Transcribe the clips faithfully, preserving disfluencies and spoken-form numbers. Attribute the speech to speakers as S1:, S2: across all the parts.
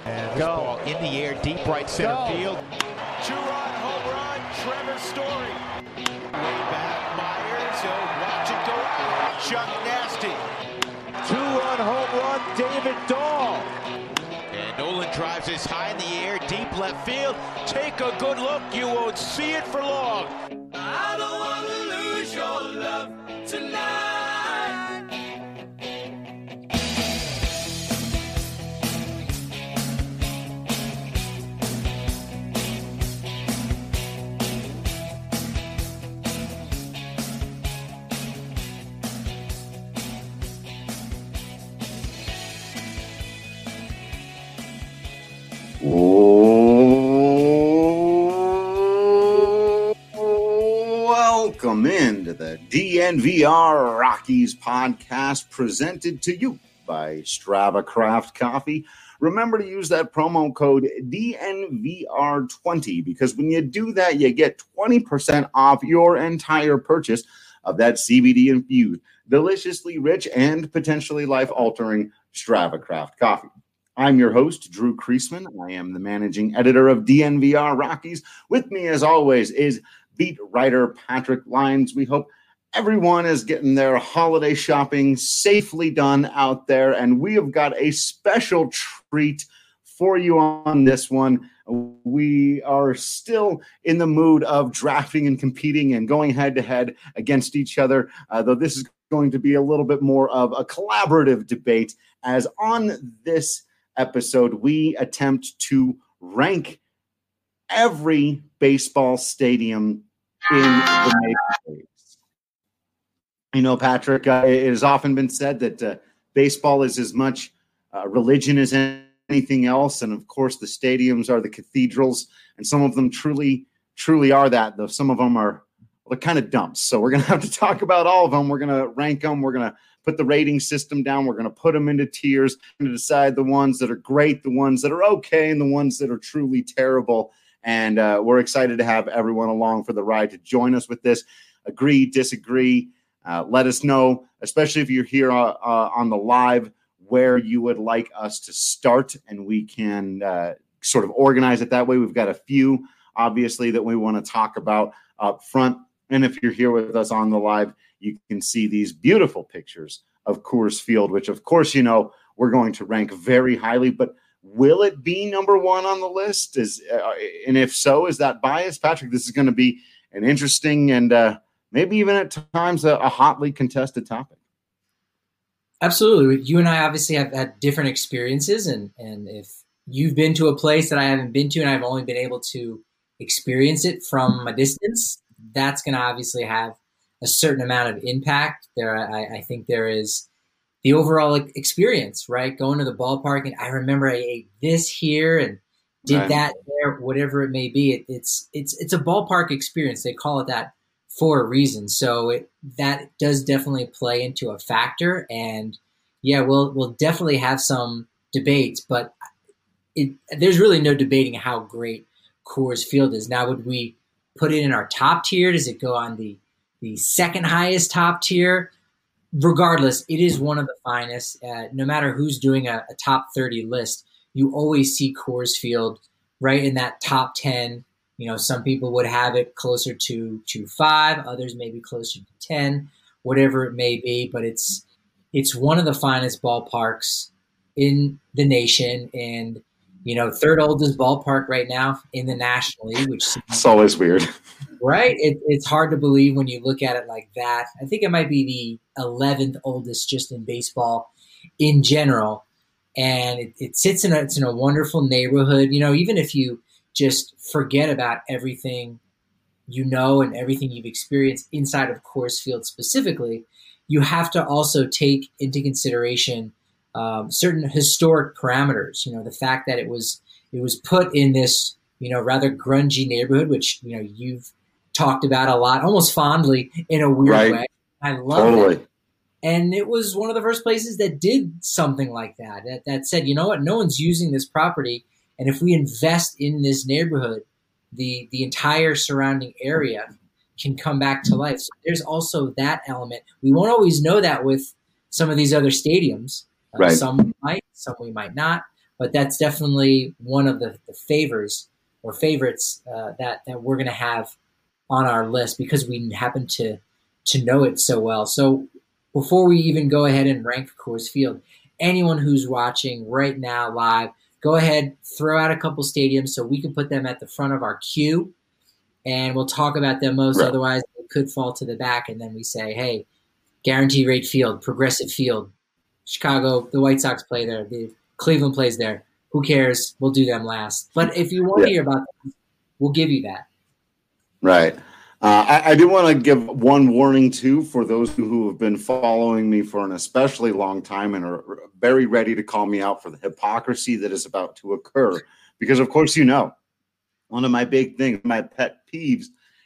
S1: And this ball in the air, deep right center Go. field.
S2: Two-run home run, Trevor Story. Way back, Myers. He'll watch it go out. Chuck Nasty.
S1: Two-run home run, David Dahl.
S2: And Nolan drives this high in the air, deep left field. Take a good look. You won't see it for long.
S3: I don't want to lose your love tonight.
S4: Welcome into the D N V R Rockies podcast presented to you by Strava Craft Coffee. Remember to use that promo code D N V R twenty because when you do that, you get twenty percent off your entire purchase of that C B D-infused, deliciously rich, and potentially life-altering Strava Craft Coffee. I'm your host, Drew Kreisman. I am the managing editor of D N V R Rockies. With me, as always, is beat writer Patrick Lyons. We hope everyone is getting their holiday shopping safely done out there, and we have got a special treat for you on this one. We are still in the mood of drafting and competing and going head-to-head against each other, uh, though this is going to be a little bit more of a collaborative debate, as on this episode, we attempt to rank every baseball stadium in the Major Leagues. You know, Patrick, uh, it has often been said that uh, baseball is as much uh, religion as anything else. And of course, the stadiums are the cathedrals, and some of them truly, truly are that, though some of them are well, they're kind of dumps. So we're going to have to talk about all of them. We're going to rank them. We're going to put the rating system down. We're going to put them into tiers and decide the ones that are great, the ones that are okay, and the ones that are truly terrible. And uh, we're excited to have everyone along for the ride to join us with this. Agree, disagree. Uh, let us know, especially if you're here uh, uh, on the live, where you would like us to start, and we can uh, sort of organize it that way. We've got a few, obviously, that we want to talk about up front. And if you're here with us on the live, you can see these beautiful pictures of Coors Field, which, of course, you know, we're going to rank very highly. But will it be number one on the list? Is uh, and if so, is that biased? Patrick, this is going to be an interesting and uh, maybe even at times a, a hotly contested topic.
S5: Absolutely. You and I obviously have had different experiences. And, and if you've been to a place that I haven't been to and I've only been able to experience it from a distance, that's going to obviously have a certain amount of impact. There, I, I think there is the overall experience, right? Going to the ballpark, and I remember I ate this here and did right. that there, whatever it may be. It, it's it's it's a ballpark experience. They call it that for a reason. So it, that does definitely play into a factor. And yeah, we'll we'll definitely have some debates, but it, there's really no debating how great Coors Field is. Now, would we put it in our top tier? Does it go on the the second highest top tier? Regardless, it is one of the finest. Uh, no matter who's doing a, a top thirty list, you always see Coors Field right in that top ten. You know, some people would have it closer to, to five, others maybe closer to ten, whatever it may be. But it's it's one of the finest ballparks in the nation, and you know, third oldest ballpark right now in the National League, which
S4: it's always weird.
S5: Right? It, it's hard to believe when you look at it like that. I think it might be the eleventh oldest just in baseball in general. And it, it sits in a, it's in a wonderful neighborhood. You know, even if you just forget about everything you know and everything you've experienced inside of Coors Field specifically, you have to also take into consideration um, certain historic parameters. You know, the fact that it was it was put in this, you know, rather grungy neighborhood, which, you know, you've talked about a lot, almost fondly in a weird
S4: right.
S5: way. I love
S4: totally.
S5: it. And it was one of the first places that did something like that, that, that said, you know what, no one's using this property. And if we invest in this neighborhood, the, the entire surrounding area can come back to life. So there's also that element. We won't always know that with some of these other stadiums. Uh,
S4: right.
S5: Some we might, some we might not. but that's definitely one of the, the favors or favorites uh, that, that we're going to have on our list because we happen to to know it so well. So before we even go ahead and rank Coors Field, anyone who's watching right now live, go ahead, throw out a couple stadiums so we can put them at the front of our queue, and we'll talk about them most. Right. Otherwise, they could fall to the back, and then we say, hey, Guaranteed Rate Field, Progressive Field, Chicago, the White Sox play there, the Cleveland plays there. Who cares? We'll do them last. But if you want yeah. to hear about them, we'll give you that.
S4: Right. Uh, I, I do want to give one warning, too, for those who have been following me for an especially long time and are very ready to call me out for the hypocrisy that is about to occur. Because, of course, you know, one of my big things, my pet peeves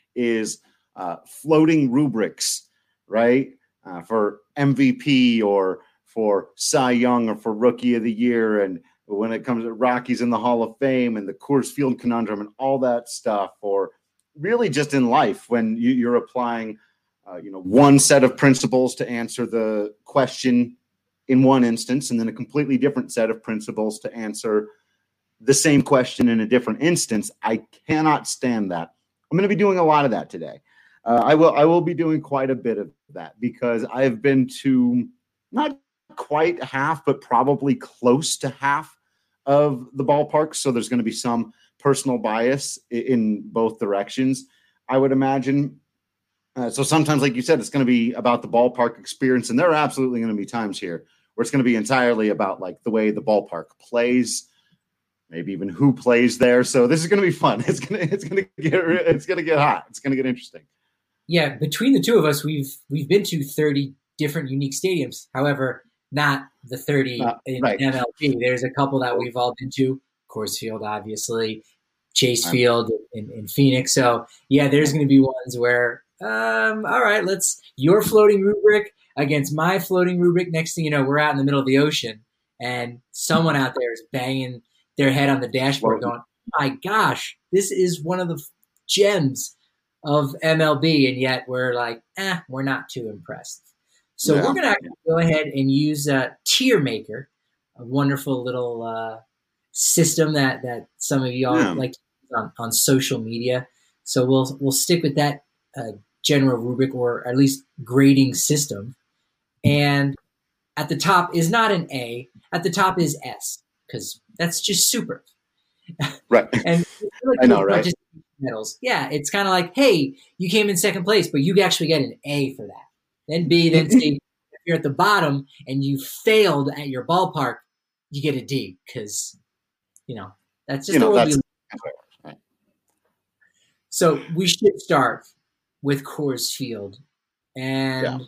S4: is uh, floating rubrics, right, uh, for M V P or for Cy Young or for Rookie of the Year. And when it comes to Rockies in the Hall of Fame and the Coors Field conundrum and all that stuff, or really just in life when you, you're applying, uh, you know, one set of principles to answer the question in one instance, and then a completely different set of principles to answer the same question in a different instance. I cannot stand that. I'm going to be doing a lot of that today. Uh, I will, I will be doing quite a bit of that because I've been to not quite half, but probably close to half of the ballparks. So there's going to be some personal bias in both directions, I would imagine. Uh, so sometimes, like you said, it's going to be about the ballpark experience. And there are absolutely going to be times here where it's going to be entirely about like the way the ballpark plays, maybe even who plays there. So this is going to be fun. It's going to, it's going to get, it's going to get hot. It's going to get interesting.
S5: Yeah. Between the two of us, we've, we've been to thirty different unique stadiums. However, not the thirty uh, in right. M L B. There's a couple that we've all been to. Coors Field, obviously, Chase Field in, in Phoenix. So, yeah, there's going to be ones where, um, all right, let's your floating rubric against my floating rubric. Next thing you know, we're out in the middle of the ocean, and someone out there is banging their head on the dashboard going, oh my gosh, this is one of the gems of M L B, and yet we're like, eh, we're not too impressed. So yeah. we're going to go ahead and use a tier maker, a wonderful little uh, system that, that some of y'all yeah. like on, on social media. So we'll we'll stick with that uh, general rubric or at least grading system. And at the top is not an A. At the top is S because that's just super.
S4: Right.
S5: and like
S4: I know, right?
S5: Medals. Yeah, it's kind of like, hey, you came in second place, but you actually get an A for that. Then B, then C. If you're at the bottom and you failed at your ballpark, you get a D because, you know, that's just
S4: you know,
S5: the way
S4: that's,
S5: we right. So we should start with Coors Field. And
S4: yeah.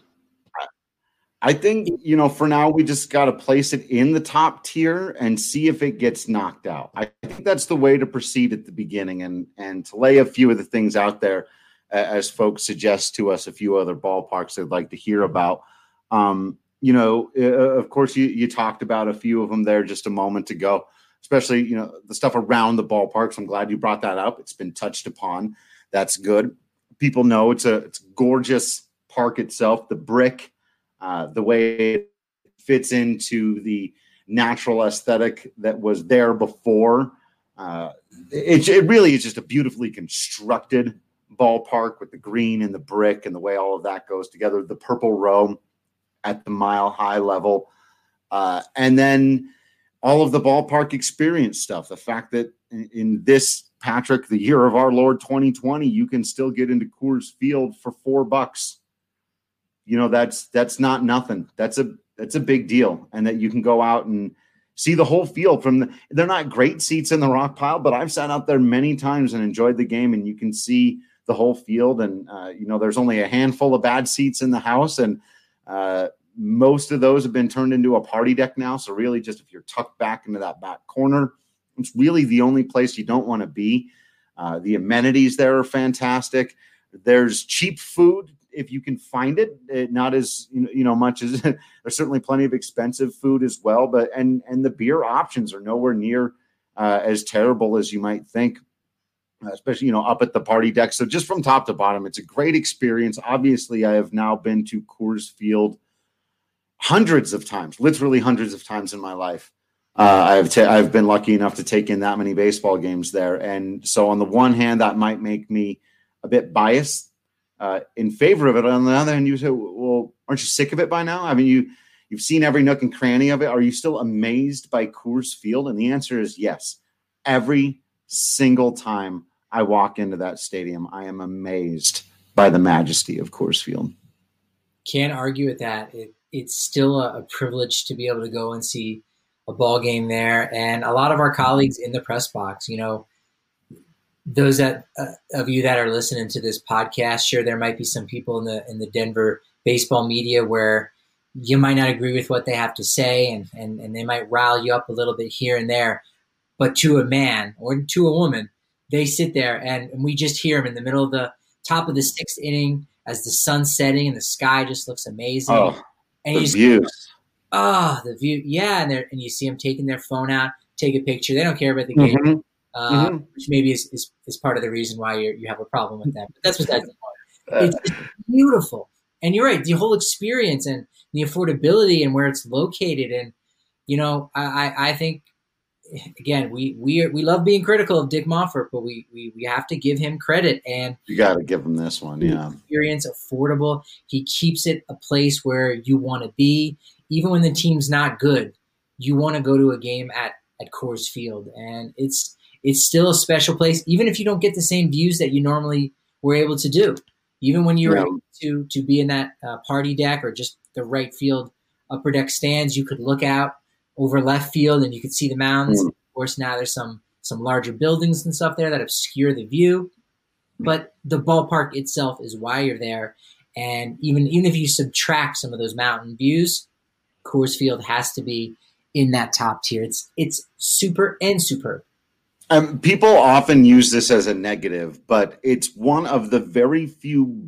S4: I think, you know, for now, we just got to place it in the top tier and see if it gets knocked out. I think that's the way to proceed at the beginning and, and to lay a few of the things out there as folks suggest to us a few other ballparks they'd like to hear about. Um, you know, uh, of course, you, you talked about a few of them there just a moment ago, especially, you know, the stuff around the ballparks. I'm glad you brought that up. It's been touched upon. That's good. People know it's a, it's a gorgeous park itself, the brick, uh, the way it fits into the natural aesthetic that was there before. Uh, it, it really is just a beautifully constructed ballpark with the green and the brick and the way all of that goes together, the purple row at the mile high level. Uh, and then all of the ballpark experience stuff. The fact that in, in this, Patrick, the year of our Lord twenty twenty, you can still get into Coors Field for four bucks. You know, that's, that's not nothing. That's a, that's a big deal. And that you can go out and see the whole field from the, they're not great seats in the rock pile, but I've sat out there many times and enjoyed the game, and you can see the whole field. And, uh, you know, there's only a handful of bad seats in the house, and uh, most of those have been turned into a party deck now. So really just if you're tucked back into that back corner, it's really the only place you don't want to be. Uh, the amenities there are fantastic. There's cheap food if you can find it, it not as, you know, you know much as there's certainly plenty of expensive food as well, but, and, and the beer options are nowhere near uh, as terrible as you might think. Especially, you know, up at the party deck. So just from top to bottom, it's a great experience. Obviously, I have now been to Coors Field hundreds of times, literally hundreds of times in my life. Uh, I've ta- I've been lucky enough to take in that many baseball games there, and so on the one hand, that might make me a bit biased uh, in favor of it. On the other hand, you say, "Well, aren't you sick of it by now? I mean, you you've seen every nook and cranny of it. Are you still amazed by Coors Field?" And the answer is yes. Every single time I walk into that stadium, I am amazed by the majesty of Coors Field.
S5: Can't argue with that. It, it's still a, a privilege to be able to go and see a ball game there. And a lot of our colleagues in the press box, you know, those that uh, of you that are listening to this podcast, sure, there might be some people in the in the Denver baseball media where you might not agree with what they have to say, and, and, and they might rile you up a little bit here and there. But to a man or to a woman, they sit there and, and we just hear them in the middle of the top of the sixth inning as the sun's setting and the sky just looks amazing.
S4: Oh,
S5: and
S4: the
S5: you just,
S4: views.
S5: Oh, the view. Yeah. And they're, and you see them taking their phone out, take a picture. They don't care about the game,
S4: Mm-hmm.
S5: uh,
S4: Mm-hmm.
S5: which maybe is, is, is part of the reason why you you have a problem with that. But that's besides the point. It's just beautiful. And you're right. The whole experience and the affordability and where it's located. And, you know, I, I, I think, again, we, we, we love being critical of Dick Monfort, but we, we, we have to give him credit. And
S4: You got to give him this one, yeah.
S5: Experience, affordable. He keeps it a place where you want to be. Even when the team's not good, you want to go to a game at, at Coors Field. And it's it's still a special place, even if you don't get the same views that you normally were able to do. Even when you were
S4: Yeah.
S5: able to, to be in that uh, party deck or just the right field upper deck stands, you could look out over left field and you could see the mountains.
S4: Mm.
S5: Of course, now there's some some larger buildings and stuff there that obscure the view. But the ballpark itself is why you're there. And even even if you subtract some of those mountain views, Coors Field has to be in that top tier. It's it's super and superb.
S4: Um, people often use this as a negative, but it's one of the very few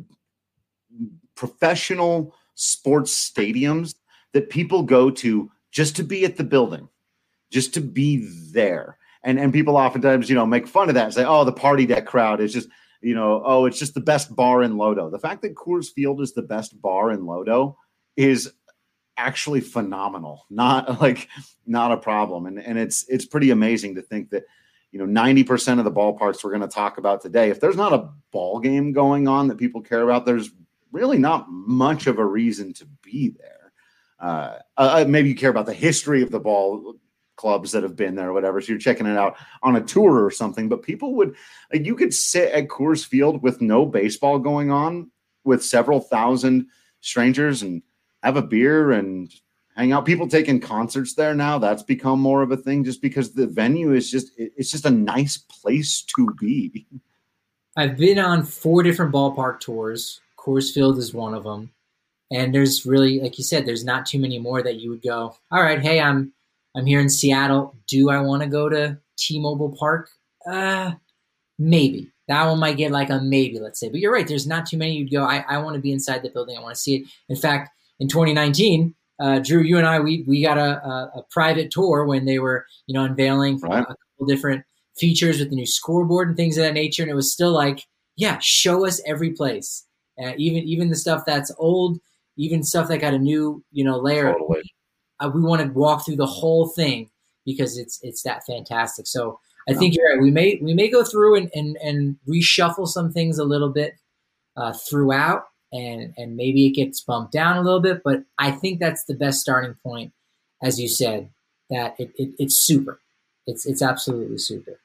S4: professional sports stadiums that people go to just to be at the building, just to be there. And and people oftentimes, you know, make fun of that and say, oh, the party deck crowd is just, you know, oh, it's just the best bar in Lodo. The fact that Coors Field is the best bar in Lodo is actually phenomenal, not like not a problem. And and it's it's pretty amazing to think that, you know, ninety percent of the ballparks we're going to talk about today, if there's not a ball game going on that people care about, there's really not much of a reason to be there. Uh, uh, maybe you care about the history of the ball clubs that have been there or whatever, so you're checking it out on a tour or something. But people would, like, you could sit at Coors Field with no baseball going on with several thousand strangers and have a beer and hang out. People taking concerts there now, that's become more of a thing just because the venue is just, it's just a nice place to be.
S5: I've been on four different ballpark tours. Coors Field is one of them. And there's really, like you said, there's not too many more that you would go, all right, hey, I'm I'm here in Seattle. Do I want to go to T-Mobile Park? Uh, maybe. That one might get like a maybe, let's say. But you're right, there's not too many you'd go, I, I want to be inside the building. I want to see it. In fact, in twenty nineteen, uh, Drew, you and I, we we got a, a, a private tour when they were, you know, unveiling
S4: Right.
S5: a couple different features with the new scoreboard and things of that nature. And it was still like, yeah, show us every place. Uh, even even the stuff that's old, even stuff that got a new, you know, layer.
S4: Totally.
S5: Uh, we want to walk through the whole thing because it's it's that fantastic. So I think you're right. We may we may go through and and, and reshuffle some things a little bit uh, throughout, and and maybe it gets bumped down a little bit. But I think that's the best starting point, as you said. That it, it it's super. It's it's absolutely super.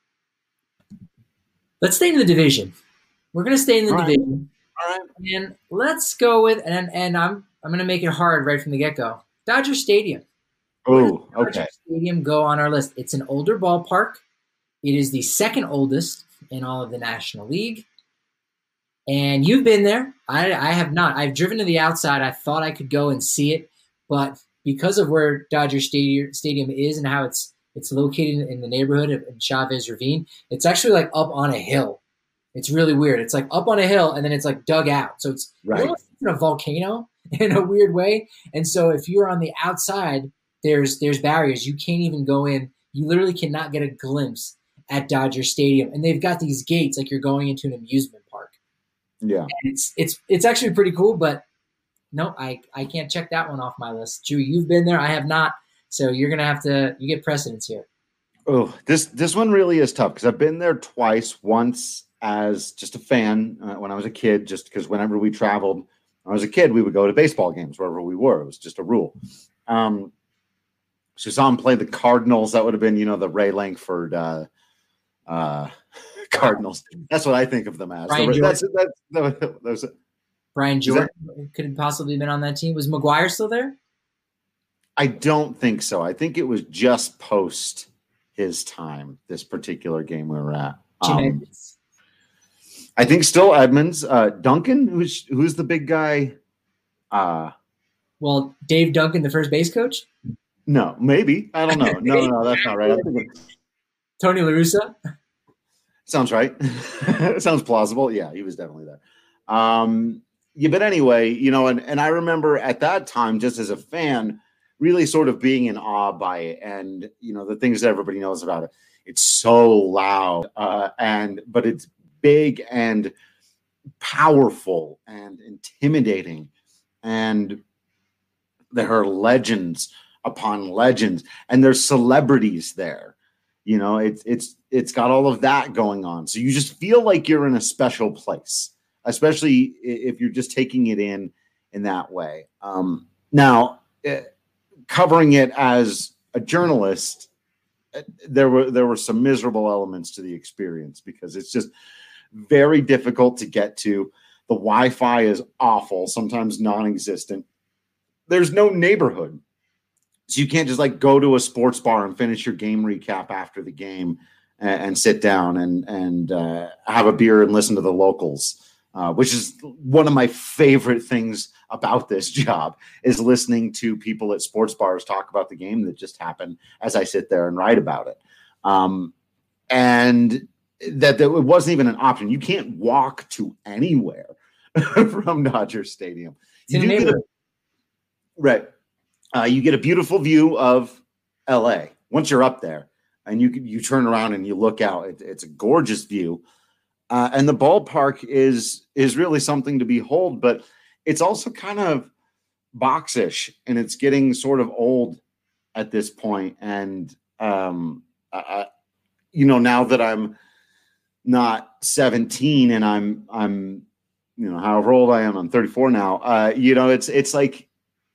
S5: Let's stay in the division. We're gonna stay in the
S4: All right.
S5: division.
S4: All right.
S5: And let's go with and and I'm I'm gonna make it hard right from the get go. Dodger Stadium.
S4: Oh,
S5: Dodger
S4: okay.
S5: Stadium go on our list. It's an older ballpark. It is the second oldest in all of the National League. And you've been there. I, I have not. I've driven to the outside. I thought I could go and see it, but because of where Dodger Stadium Stadium is and how it's it's located in the neighborhood of Chavez Ravine, it's actually like up on a hill. It's really weird. It's like up on a hill and then it's like dug out. So it's
S4: Right.
S5: almost in a volcano in a weird way. And so if you're on the outside, there's there's barriers. You can't even go in. You literally cannot get a glimpse at Dodger Stadium. And they've got these gates like you're going into an amusement park.
S4: Yeah.
S5: And it's it's it's actually pretty cool, but no, I, I can't check that one off my list. Drew, you've been there. I have not. So you're going to have to, you get precedence here.
S4: Oh, this, this one really is tough because I've been there twice, once as just a fan uh, when I was a kid, just because whenever we traveled, when I was a kid, we would go to baseball games wherever we were. It was just a rule. Um, so saw him play the Cardinals. That would have been, you know, the Ray Lankford uh, uh, Cardinals. That's what I think of them as.
S5: Brian
S4: The, that's,
S5: Jordan.
S4: that's, that, that was,
S5: Brian Jordan could have possibly been on that team. Was McGuire still there?
S4: I don't think so. I think it was just post his time, this particular game we were at.
S5: Jim
S4: Um,
S5: Edmonds.
S4: I think still Edmonds. Uh, Duncan, who's who's the big guy? Uh,
S5: Well, Dave Duncan, the first base coach?
S4: no, maybe. I don't know. No, no, that's not right. I'm thinking,
S5: Tony La Russa?
S4: sounds right. Sounds plausible. Yeah, he was definitely there. Um, yeah, but anyway, you know, and, and I remember at that time, just as a fan, really sort of being in awe by it, and you know the things that everybody knows about it. It's so loud, uh, and but it's big and powerful and intimidating, and there are legends upon legends, and there's celebrities there. You know, it's it's it's got all of that going on, so you just feel like you're in a special place, especially if you're just taking it in in that way. Um, now. It, Covering it as a journalist, there were there were some miserable elements to the experience because it's just very difficult to get to. The Wi-Fi is awful, sometimes non-existent. There's no neighborhood, so you can't just like go to a sports bar and finish your game recap after the game and, and sit down and and uh, have a beer and listen to the locals. Uh, which is one of my favorite things about this job is listening to people at sports bars talk about the game that just happened as I sit there and write about it. Um, and that, that it wasn't even an option. You can't walk to anywhere from Dodger Stadium. You do get a, right. Uh, you get a beautiful view of L A once you're up there and you you turn around and you look out. It, it's a gorgeous view. Uh, and the ballpark is is really something to behold, but it's also kind of boxish, and it's getting sort of old at this point. And um, I, you know, now that I'm not seventeen and I'm I'm you know however old I am, I'm thirty-four now. Uh, you know, it's it's like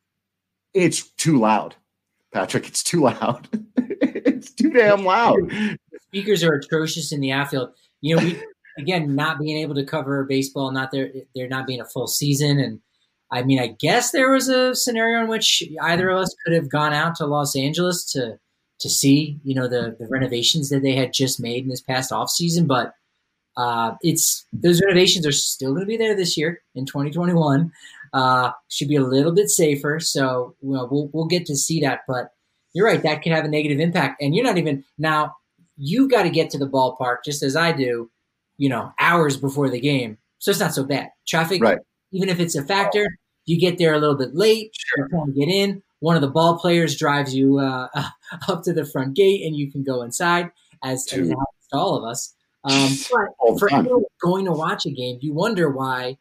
S4: it's too loud, Patrick. It's too loud. It's too damn loud.
S5: The speakers are atrocious in the outfield. You know, we. Again, not being able to cover baseball, not there, there not being a full season. And I mean, I guess there was a scenario in which either of us could have gone out to Los Angeles to to see, you know, the, the renovations that they had just made in this past off season. But uh, it's those renovations are still going to be there this year in twenty twenty-one. Uh, should be a little bit safer. So you know, we'll we'll get to see that. But you're right, that could have a negative impact. And you're not even now. You've got to get to the ballpark just as I do. You know, hours before the game. So it's not so bad. Traffic,
S4: right.
S5: Even if it's a factor, you get there a little bit late, sure. You're trying to get in. One of the ball players drives you uh, up to the front gate and you can go inside, as, as it happens to all of us. Um, but for anyone going to watch a game, you wonder why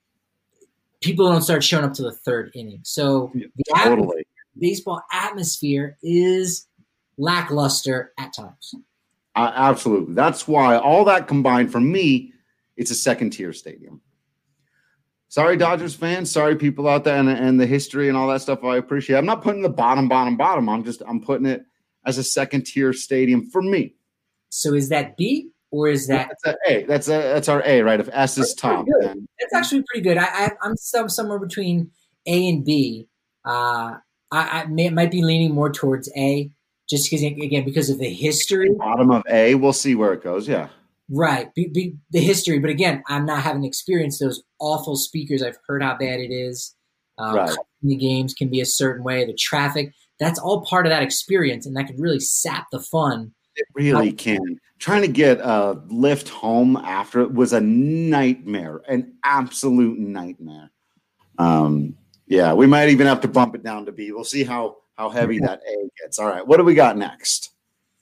S5: people don't start showing up to the third inning. So
S4: yeah,
S5: the
S4: totally.
S5: atmosphere, baseball atmosphere is lackluster at times.
S4: Uh, absolutely. That's why all that combined for me, it's a second tier stadium. Sorry, Dodgers fans. Sorry, people out there and, and the history and all that stuff. I appreciate. I'm not putting the bottom, bottom, bottom. I'm just I'm putting it as a second tier stadium for me.
S5: So is that B or is that
S4: that's a A? That's a that's our A, right? If S is top,
S5: then that's actually pretty good. I, I I'm some, somewhere between A and B. Uh, I, I may, might be leaning more towards A. Just because, again, because of the history.
S4: Bottom of A, we'll see where it goes, yeah.
S5: Right, be, be, the history. But again, I'm not having experienced those awful speakers. I've heard how bad it is. Uh,
S4: right.
S5: The games can be a certain way. The traffic, that's all part of that experience, and that could really sap the fun.
S4: It really can. Trying to get a lift home after it was a nightmare, an absolute nightmare. Um, yeah, we might even have to bump it down to B. We'll see how how heavy that A gets. All right, what do we got next?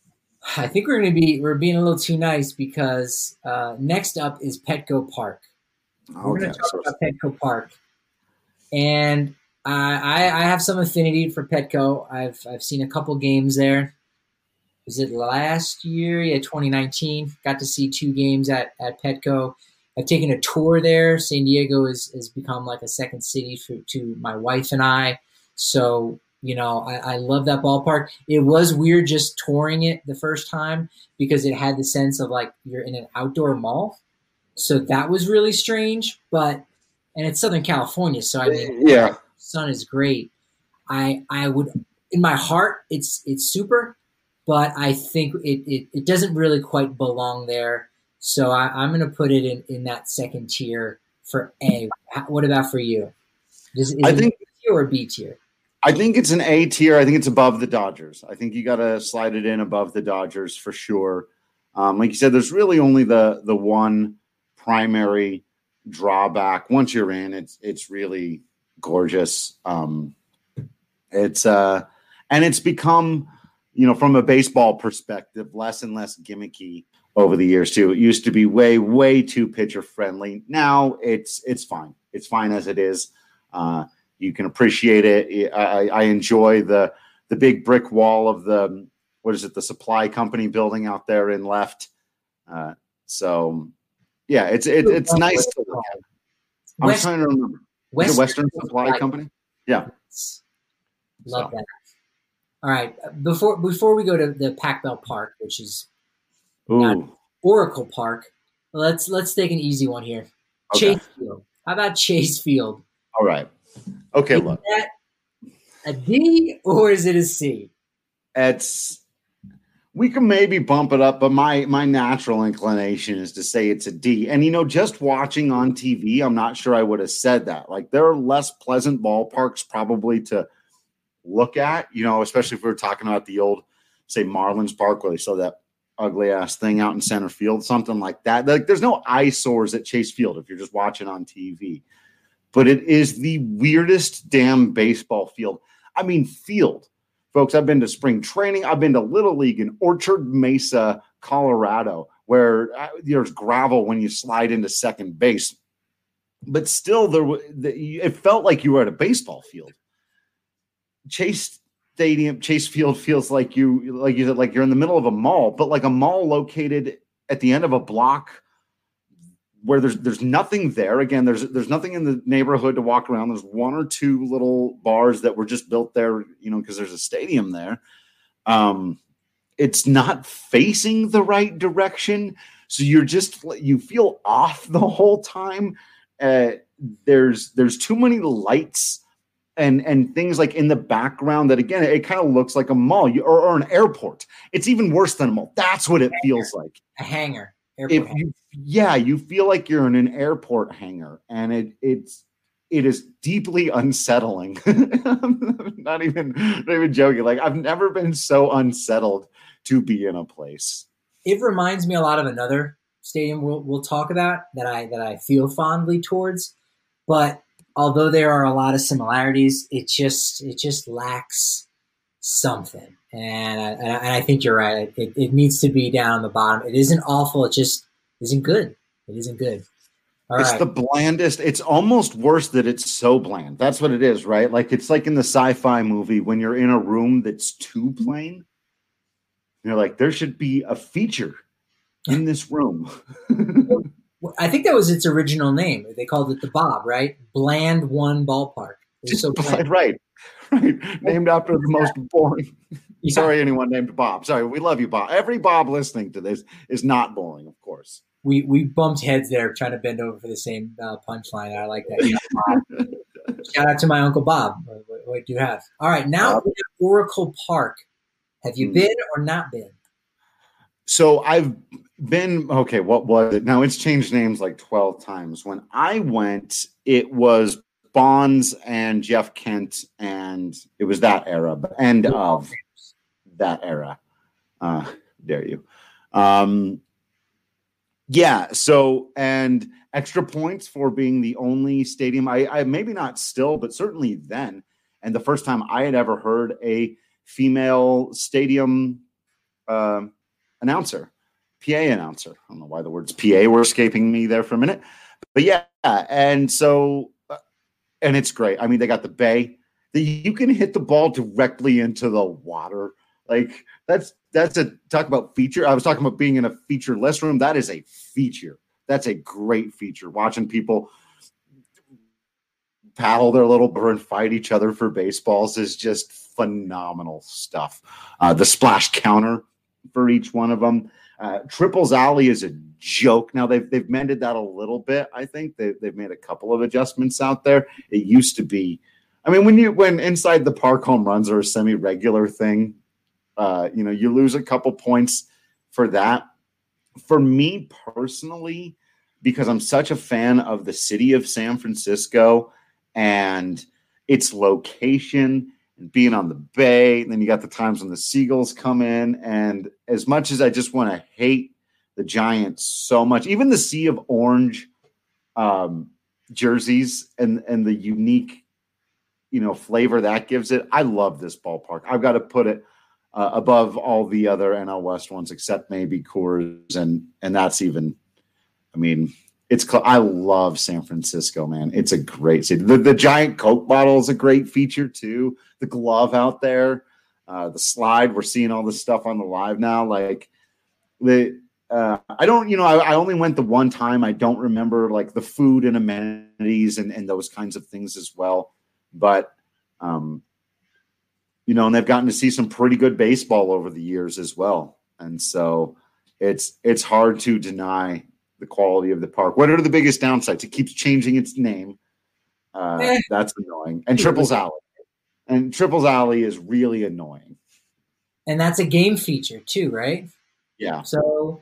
S5: I think we're going to be we're being a little too nice because uh, next up is Petco Park. We're
S4: Okay,
S5: going to talk
S4: so
S5: about Petco Park, and I, I have some affinity for Petco. I've I've seen a couple games there. Was it last year? Yeah, twenty nineteen. Got to see two games at, at Petco. I've taken a tour there. San Diego has, has become like a second city for, to my wife and I. So, you know, I, I love that ballpark. It was weird just touring it the first time because it had the sense of like you're in an outdoor mall. So that was really strange. But and it's Southern California, so I mean,
S4: yeah,
S5: sun is great. I I would in my heart it's it's super, but I think it it, it doesn't really quite belong there. So I, I'm going to put it in, in that second tier for A. What about for you? Is, is
S4: I
S5: it
S4: think
S5: A tier or B tier?
S4: I think it's an A tier. I think it's above the Dodgers. I think you got to slide it in above the Dodgers for sure. Um, like you said, there's really only the the one primary drawback. Once you're in, it's it's really gorgeous. Um, it's uh, and it's become, you know, from a baseball perspective, less and less gimmicky over the years too. It used to be way, way too pitcher friendly. Now it's it's fine. It's fine as it is. Uh, you can appreciate it. I, I enjoy the the big brick wall of the what is it, the supply company building out there in left. Uh, so yeah, it's it, it's nice to look at. I'm
S5: West,
S4: trying to remember.
S5: Western,
S4: is it Western Supply
S5: Supply
S4: Company? Yeah.
S5: Love
S4: So.
S5: that. All right. Before before we go to the Pac Bell Park, which is not
S4: Ooh.
S5: Oracle Park, let's let's take an easy one here.
S4: Okay.
S5: Chase Field. How about Chase Field?
S4: All right. Okay,
S5: Is
S4: look.
S5: that a D or is it a C?
S4: It's we can maybe bump it up, but my my natural inclination is to say it's a D. And you know, just watching on T V, I'm not sure I would have said that. Like there are less pleasant ballparks probably to look at, you know, especially if we were talking about the old, say, Marlins Park where they saw that ugly ass thing out in center field, something like that. Like there's no eyesores at Chase Field if you're just watching on T V. But it is the weirdest damn baseball field. I mean, field. Folks, I've been to spring training. I've been to Little League in Orchard Mesa, Colorado, where there's gravel when you slide into second base. But still, there it felt like you were at a baseball field. Chase Stadium, Chase Field feels like you, like you said, like you're in the middle of a mall, but like a mall located at the end of a block where there's there's nothing there. Again, there's there's nothing in the neighborhood to walk around. There's one or two little bars that were just built there, you know, because there's a stadium there. Um, it's not facing the right direction, so you're just you feel off the whole time. Uh, there's there's too many lights and and things like in the background that again it kind of looks like a mall you, or, or an airport. It's even worse than a mall. That's what it feels like.
S5: A hangar.
S4: If you, yeah, you feel like you're in an airport hangar, and it it's it is deeply unsettling. not even not even joking. Like I've never been so unsettled to be in a place.
S5: It reminds me a lot of another stadium we'll we'll talk about that I that I feel fondly towards, but although there are a lot of similarities, it just it just lacks something. And I, and I think you're right. It, it needs to be down the bottom. It isn't awful. It just isn't good. It isn't good. All
S4: it's
S5: right.
S4: the blandest. It's almost worse that it's so bland. That's what it is, right? Like it's like in the sci-fi movie when you're in a room that's too plain. You're like, there should be a feature in this room.
S5: I think that was its original name. They called it the Bob, right? Bland One Ballpark. It was so bland.
S4: Right. Right. Named after the most boring.
S5: Yeah.
S4: Sorry, anyone named Bob. Sorry, we love you, Bob. Every Bob listening to this is not boring, of course.
S5: We we bumped heads there trying to bend over for the same uh, punchline. I like that. Yeah, shout out to my Uncle Bob. What, what, what do you have? All right, now we're at Oracle Park. Have you been or not been?
S4: So I've been, okay, what was it? Now it's changed names like twelve times. When I went, it was Bonds and Jeff Kent, and it was that era, but end of that era. Uh, dare you. Um, yeah, so, and extra points for being the only stadium, I, I maybe not still, but certainly then, and the first time I had ever heard a female stadium uh, announcer, P A announcer. I don't know why the words P A were escaping me there for a minute, but yeah, and so and it's great. I mean, they got the bay that you can hit the ball directly into the water. Like that's that's a talk about feature. I was talking about being in a featureless room. That is a feature. That's a great feature. Watching people paddle their little bird and fight each other for baseballs is just phenomenal stuff. Uh, the splash counter for each one of them. Uh, Triples Alley is a joke. Now they've they've mended that a little bit. I think they, they've made a couple of adjustments out there. It used to be, I mean, when you when inside the park home runs are a semi-regular thing, uh, you know, you lose a couple points for that. For me personally, because I'm such a fan of the city of San Francisco and its location and being on the bay, and then you got the times when the Seagulls come in. And as much as I just want to hate the Giants so much, even the sea of orange um, jerseys and, and the unique, you know, flavor that gives it, I love this ballpark. I've got to put it uh, above all the other N L West ones, except maybe Coors. And, and that's even, I mean, It's. I love San Francisco, man. It's a great city. The, the giant Coke bottle is a great feature too. The glove out there, uh, the slide. We're seeing all this stuff on the live now. Like the, uh, I don't, you know, I, I only went the one time. I don't remember like the food and amenities and, and those kinds of things as well. But, um, you know, and they've gotten to see some pretty good baseball over the years as well. And so it's it's hard to deny the quality of the park. What are the biggest downsides? It keeps changing its name. Uh, eh. That's annoying. And Triples Alley. And Triples Alley is really annoying.
S5: And that's a game feature too, right?
S4: Yeah.
S5: So,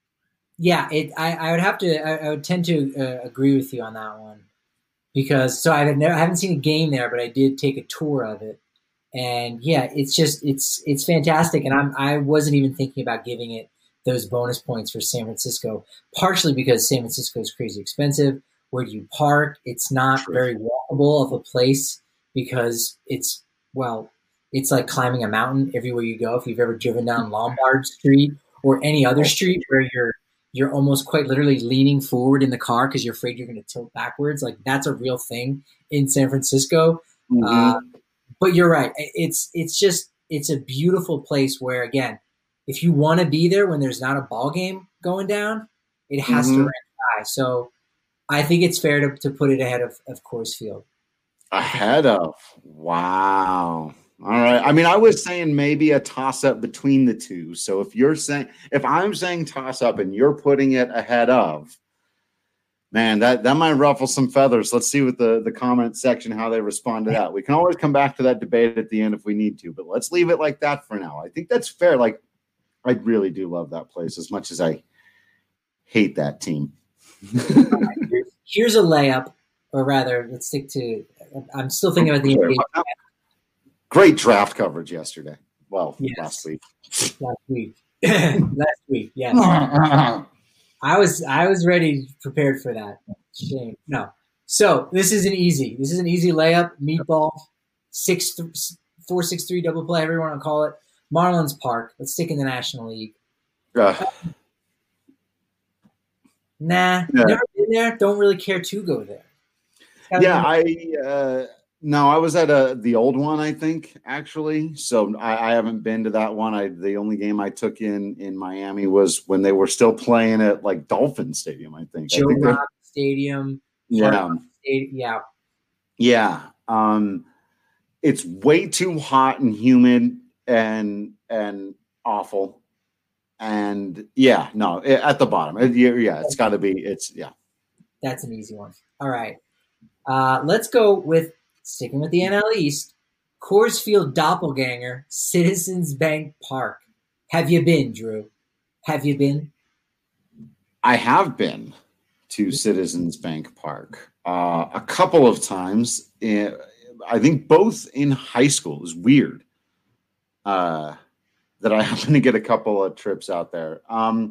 S5: yeah, it. I, I would have to. I, I would tend to uh, agree with you on that one because so I've never. I haven't seen a game there, but I did take a tour of it, and yeah, it's just it's it's fantastic. And I'm I wasn't even thinking about giving it those bonus points for San Francisco, partially because San Francisco is crazy expensive. Where do you park? It's not True. very walkable of a place because it's, well, it's like climbing a mountain everywhere you go. If you've ever driven down Lombard Street or any other street where you're you're almost quite literally leaning forward in the car because you're afraid you're going to tilt backwards, like that's a real thing in San Francisco. Mm-hmm. Uh, but you're right. It's it's just it's a beautiful place where, again, if you want to be there when there's not a ball game going down, it has mm-hmm. to rank high. So I think it's fair to, to put it ahead of, of Coors Field.
S4: Ahead of? Wow. All right. I mean, I was saying maybe a toss-up between the two. So if you're saying – if I'm saying toss-up and you're putting it ahead of, man, that, that might ruffle some feathers. Let's see what the, the comment section, how they respond to that. We can always come back to that debate at the end if we need to, but let's leave it like that for now. I think that's fair. Like, I really do love that place as much as I hate that team.
S5: Right, here's a layup, or rather, let's stick to – I'm still thinking about the N B A.
S4: Great draft coverage yesterday. Well,
S5: yes.
S4: last week.
S5: Last week. last week, yes. I was I was ready, prepared for that. Shame. No. So this is an easy. This is an easy layup. Meatball, six, th- four, six, three double play, however you want to call it. Marlins Park. Let's stick in the National League.
S4: Uh,
S5: nah,
S4: yeah.
S5: never been there. Don't really care to go there.
S4: Yeah, I uh, no, I was at a the old one, I think, actually. So I, I haven't been to that one. I the only game I took in in Miami was when they were still playing at like Dolphin Stadium, I think.
S5: Joe
S4: I think
S5: Rock Stadium.
S4: Yeah.
S5: Stadium, yeah.
S4: Yeah. Um, it's way too hot and humid and and awful. And yeah, no, it, at the bottom. It, yeah, it's got to be. It's yeah.
S5: That's an easy one. All right. Uh, let's go with sticking with the N L East. Coors Field doppelganger, Citizens Bank Park. Have you been, Drew? Have you been?
S4: I have been to Citizens Bank Park uh, a couple of times. In, I think both in high school. It was weird uh, that I happened to get a couple of trips out there. Um,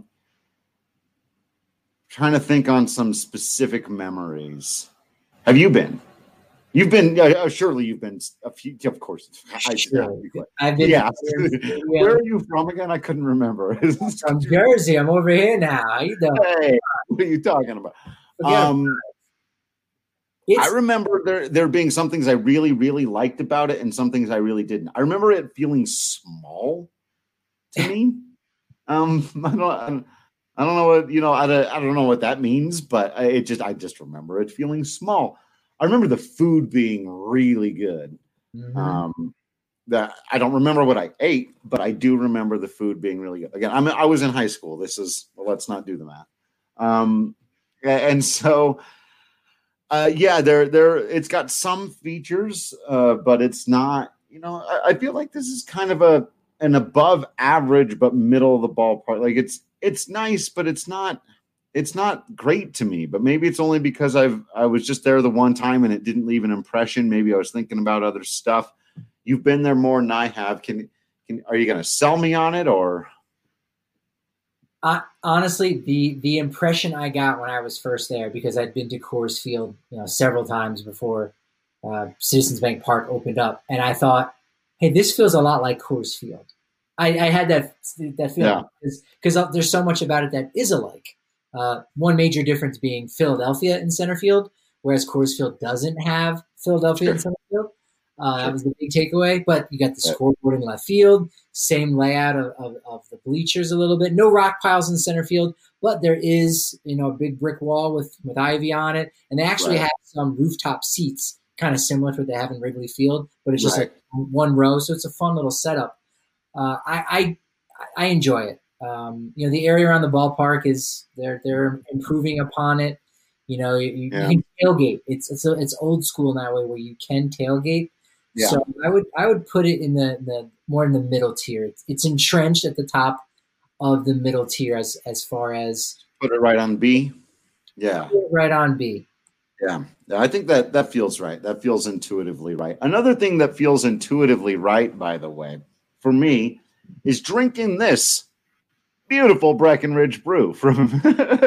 S4: trying to think on some specific memories. Have you been? You've been, uh, surely you've been a few, of course. I,
S5: sure. I've been.
S4: Yeah. Where are you from again? I couldn't remember.
S5: From Jersey. I'm over here now. How you doing?
S4: Hey, what are you talking about? Um,
S5: It's,
S4: I remember there there being some things I really, really liked about it and some things I really didn't. I remember it feeling small to me. um, I don't, I don't know what, you know, I don't, I don't know what that means, but it just, I just remember it feeling small. I remember the food being really good.
S5: mm-hmm.
S4: Um, that I don't remember what I ate, but I do remember the food being really good. Again, I'm, I was in high school. This is, well, let's not do the math. Um, and so, Uh, yeah, there, there. It's got some features, uh, but it's not. You know, I, I feel like this is kind of a an above average, but middle of the ballpark. Like it's it's nice, but it's not. It's not great to me. But maybe it's only because I've I was just there the one time and it didn't leave an impression. Maybe I was thinking about other stuff. You've been there more than I have. Can can are you going to sell me on it or?
S5: Uh, honestly, the the impression I got when I was first there, because I'd been to Coors Field, you know, several times before uh, Citizens Bank Park opened up, and I thought, "Hey, this feels a lot like Coors Field." I, I had that that feeling because yeah. there's so much about it that is alike. Uh, one major difference being Philadelphia in center field, whereas Coors Field doesn't have Philadelphia sure. in center field. Uh, sure. That was the big takeaway. But you got the scoreboard in left field, same layout of, of, of the bleachers a little bit. No rock piles in center field, but there is, you know, a big brick wall with, with ivy on it. And they actually right. have some rooftop seats, kind of similar to what they have in Wrigley Field, but it's just right. like one row. So it's a fun little setup. Uh, I, I I enjoy it. Um, you know, the area around the ballpark is they're they're improving upon it. You know, you, yeah. you can tailgate. It's it's a, it's old school in that way where you can tailgate. Yeah. So I would I would put it in the, the more in the middle tier. It's, it's entrenched at the top of the middle tier as as far as
S4: put it right on B. Yeah,
S5: put it right on B.
S4: Yeah, I think that that feels right. That feels intuitively right. Another thing that feels intuitively right, by the way, for me, is drinking this beautiful Breckenridge brew from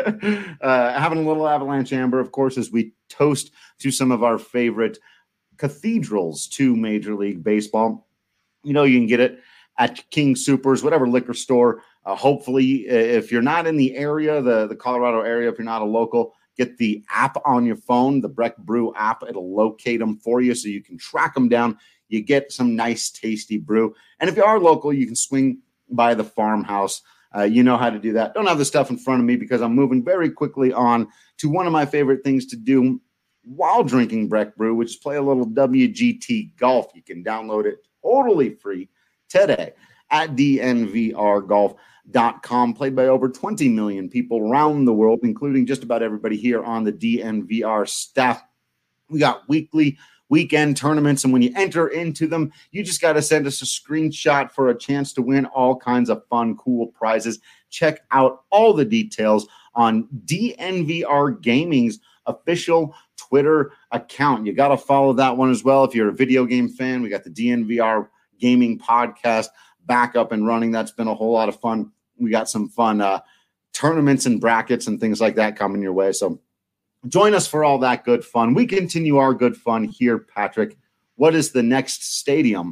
S4: uh, having a little Avalanche Amber, of course, as we toast to some of our favorite cathedrals to Major League Baseball. You know, you can get it at King Soopers, whatever liquor store. Uh, hopefully, if you're not in the area, the, the Colorado area, if you're not a local, get the app on your phone, the Breck Brew app. It'll locate them for you so you can track them down. You get some nice, tasty brew. And if you are local, you can swing by the farmhouse. Uh, you know how to do that. Don't have the stuff in front of me because I'm moving very quickly on to one of my favorite things to do while drinking Breck Brew, which is play a little W G T Golf. You can download it totally free today at D N V R golf dot com. Played by over twenty million people around the world, including just about everybody here on the D N V R staff. We got weekly, weekend tournaments, and when you enter into them, you just got to send us a screenshot for a chance to win all kinds of fun, cool prizes. Check out all the details on D N V R Gaming's official Twitter account. You got to follow that one as well. If you're a video game fan, we got the D N V R Gaming podcast back up and running. That's been a whole lot of fun. We got some fun uh, tournaments and brackets and things like that coming your way. So join us for all that good fun. We continue our good fun here, Patrick. What is the next stadium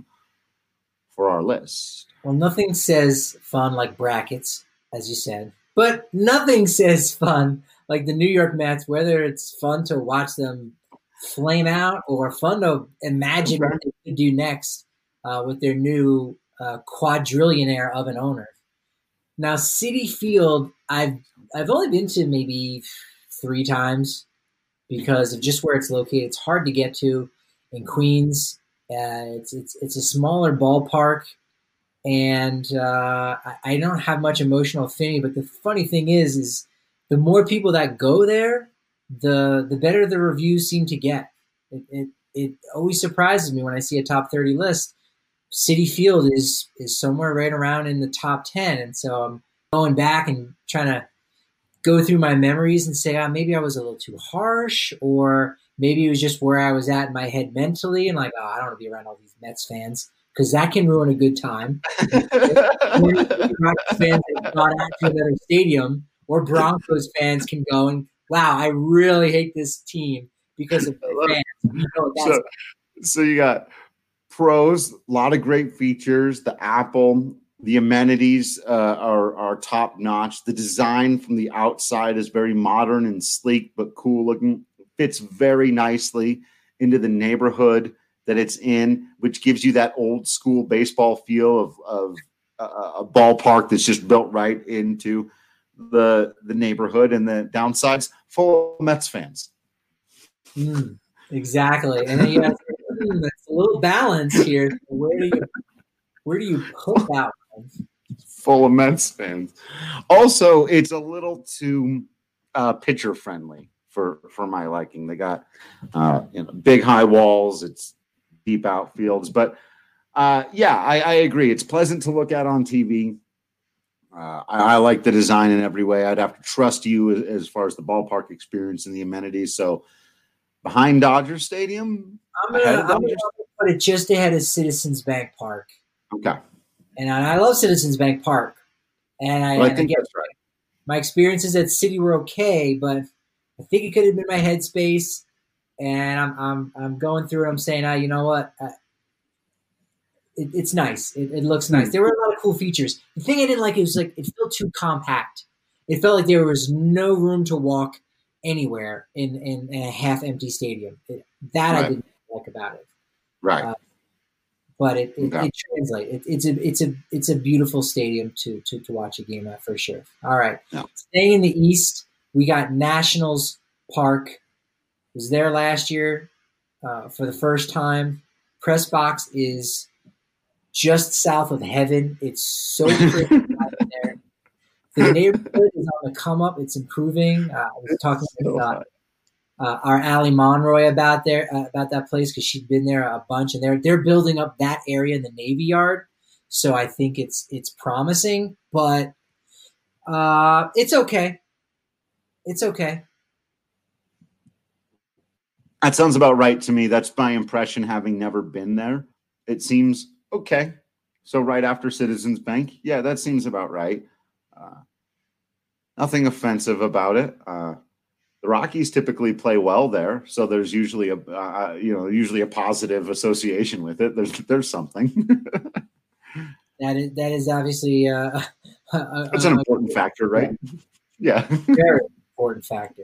S4: for our list?
S5: Well, nothing says fun like brackets, as you said, but nothing says fun like the New York Mets, whether it's fun to watch them flame out or fun to imagine what they could do next uh, with their new uh, quadrillionaire of an owner. Now, Citi Field, I've I've only been to maybe three times because of just where it's located. It's hard to get to in Queens. Uh, it's it's it's a smaller ballpark, and uh, I, I don't have much emotional affinity. But the funny thing is, is the more people that go there, the the better the reviews seem to get. It it, it always surprises me when I see a top thirty list. Citi Field is is somewhere right around in the top ten, and so I'm going back and trying to go through my memories and say, ah, maybe I was a little too harsh, or maybe it was just where I was at in my head mentally, and like, oh, I don't want to be around all these Mets fans because that can ruin a good time. Mets fans that got out to another stadium, or Broncos fans can go and, wow, I really hate this team because of the fans. You know, that's
S4: so, so you got pros, a lot of great features. The Apple, the amenities uh, are are top notch. The design from the outside is very modern and sleek, but cool looking. fits very nicely into the neighborhood that it's in, which gives you that old school baseball feel of, of a, a ballpark that's just built right into the the neighborhood, and the downsides full of Mets fans.
S5: Mm, exactly. And then you have mm, that's a little balance here. Where do you where do you put that one?
S4: Full of Mets fans. Also, it's a little too uh, pitcher friendly for for my liking. They got uh, you know, big high walls. It's deep outfields, but uh, yeah, I, I agree. It's pleasant to look at on T V. Uh, I, I like the design in every way. I'd have to trust you as, as far as the ballpark experience and the amenities. So behind Dodger Stadium,
S5: I'm gonna, I'm gonna put it just ahead of Citizens Bank Park.
S4: Okay,
S5: and I, I love Citizens Bank Park, and I,
S4: well, I
S5: and
S4: think
S5: again,
S4: that's right.
S5: My experiences at City were okay, but I think it could have been my headspace. And I'm I'm I'm going through it. I'm saying, ah, you know what? Uh, it, it's nice. It, it looks nice. There were a lot of cool features. The thing I didn't like, it was like it felt too compact. It felt like there was no room to walk anywhere in, in, in a half-empty stadium. It, that right. I didn't like about it.
S4: Right.
S5: Uh, but it it, okay. it translates. It, it's a it's a it's a beautiful stadium to to to watch a game at for sure. All right.
S4: Yeah.
S5: Staying in the East, we got Nationals Park. Was there last year uh, for the first time. Press box is just south of heaven. It's so pretty out there. The neighborhood is on the come up. It's improving. Uh, I was talking to uh, uh, our Allie Monroy about there uh, about that place because she'd been there a bunch, and they're they're building up that area in the Navy Yard. So I think it's it's promising, but uh, it's okay. It's okay.
S4: That sounds about right to me. That's my impression, having never been there. It seems okay. So right after Citizens Bank, yeah, that seems about right. Uh, nothing offensive about it. Uh, the Rockies typically play well there, so there's usually a uh, you know usually a positive association with it. There's there's something.
S5: that is that is obviously uh, a,
S4: it's an important a, factor, right? Yeah,
S5: very important factor.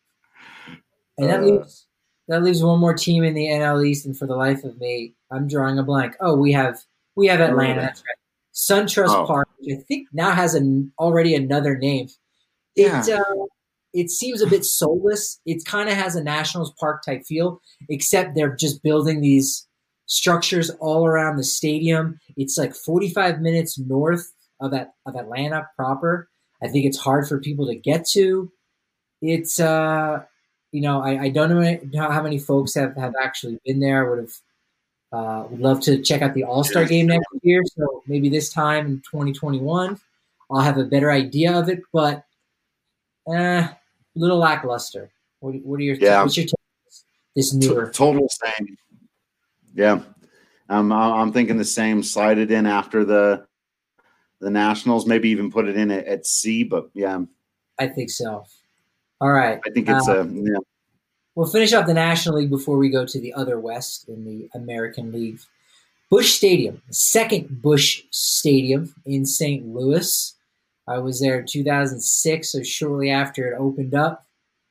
S5: And that uh, leaves. That leaves one more team in the N L East, and for the life of me, I'm drawing a blank. Oh, we have we have Atlanta. That's right. SunTrust oh. Park, which I think now has an already another name. It yeah. uh, it seems a bit soulless. It kind of has a Nationals Park type feel, except they're just building these structures all around the stadium. It's like forty-five minutes north of that of Atlanta proper. I think it's hard for people to get to. It's uh. You know, I, I don't know how many folks have, have actually been there. I would have uh, would love to check out the All-Star game next year. So maybe this time in twenty twenty-one, I'll have a better idea of it. But eh, a little lackluster. What, what are your
S4: yeah.
S5: what's your take this newer
S4: total same? Yeah, um, I'm thinking the same. Slide it in after the the Nationals. Maybe even put it in at, at C. But yeah,
S5: I think so. All right.
S4: I think it's
S5: uh,
S4: a yeah.
S5: We'll finish up the National League before we go to the other West in the American League. Busch Stadium, the second Busch Stadium in Saint Louis. I was there in two thousand six, so shortly after it opened up.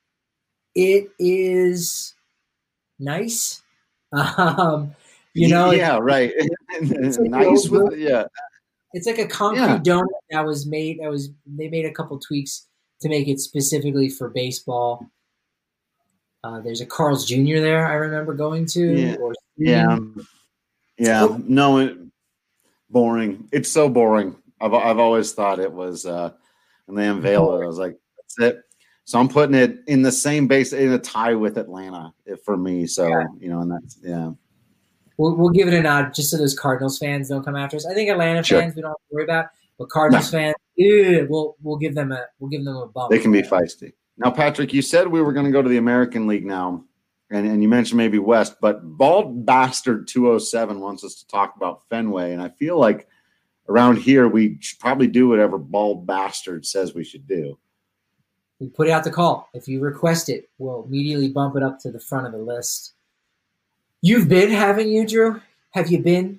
S5: It is nice. Um, you know,
S4: yeah, it, right. It's like nice with yeah.
S5: It's like a concrete yeah. donut that was made. That was they made a couple tweaks to make it specifically for baseball. Uh, there's a Carl's Junior there I remember going to.
S4: Yeah,
S5: or
S4: yeah. yeah. So, no, it, boring. It's so boring. I've I've always thought it was, uh, and they unveiled it. I was like, that's it. So I'm putting it in the same base, in a tie with Atlanta for me. So, yeah. you know, and that's, yeah.
S5: We'll, we'll give it a nod just so those Cardinals fans don't come after us. I think Atlanta sure. fans we don't have to worry about, but Cardinals no. fans, ew, we'll we'll give them a we'll give them a bump.
S4: They can be feisty. Now, Patrick, you said we were going to go to the American League now, and, and you mentioned maybe West, but Bald Bastard two oh seven wants us to talk about Fenway, and I feel like around here we should probably do whatever Bald Bastard says we should do.
S5: We put out the call. If you request it, we'll immediately bump it up to the front of the list. You've been, haven't you, Drew? Have you been?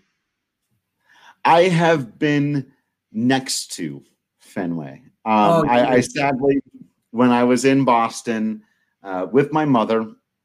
S4: I have been next to Fenway. Um, oh, I, I sadly, when I was in Boston uh, with my mother,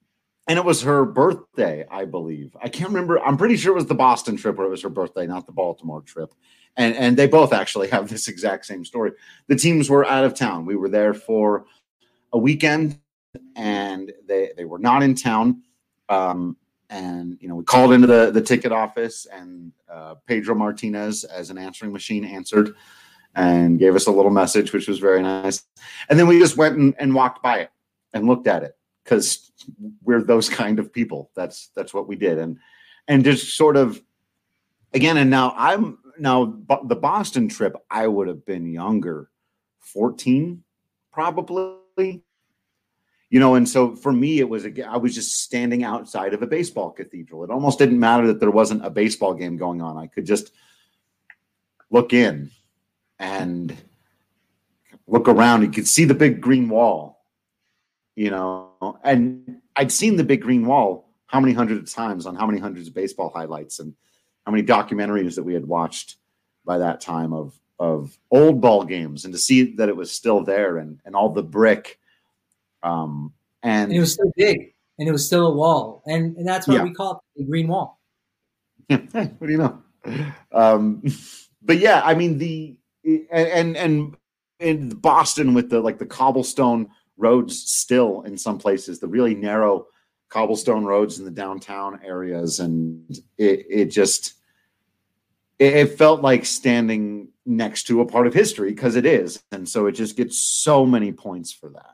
S4: And it was her birthday, I believe. I can't remember. I'm pretty sure it was the Boston trip where it was her birthday, not the Baltimore trip. And and they both actually have this exact same story. The teams were out of town. We were there for a weekend, and they they were not in town. Um, and you know, we called into the the ticket office, and uh, Pedro Martinez, as an answering machine, answered and gave us a little message, which was very nice. And then we just went and, and walked by it and looked at it, because we're those kind of people. That's that's what we did. And and just sort of, again, and now I'm now the Boston trip, I would have been younger, fourteen probably. You know, and so for me, it was, I was just standing outside of a baseball cathedral. It almost didn't matter that there wasn't a baseball game going on. I could just look in and look around. You could see the big green wall, you know, and I'd seen the big green wall how many hundreds of times on how many hundreds of baseball highlights and how many documentaries that we had watched by that time of, of old ball games, and to see that it was still there, and, and all the brick. Um, and,
S5: and it was still big, and it was still a wall. And, and that's why yeah. we call it the green wall.
S4: Yeah. Hey, what do you know? Um, but yeah, I mean, the, and, and, in Boston with the, like the cobblestone roads still in some places, the really narrow cobblestone roads in the downtown areas. And it, it just, it, it felt like standing next to a part of history, because it is. And so it just gets so many points for that.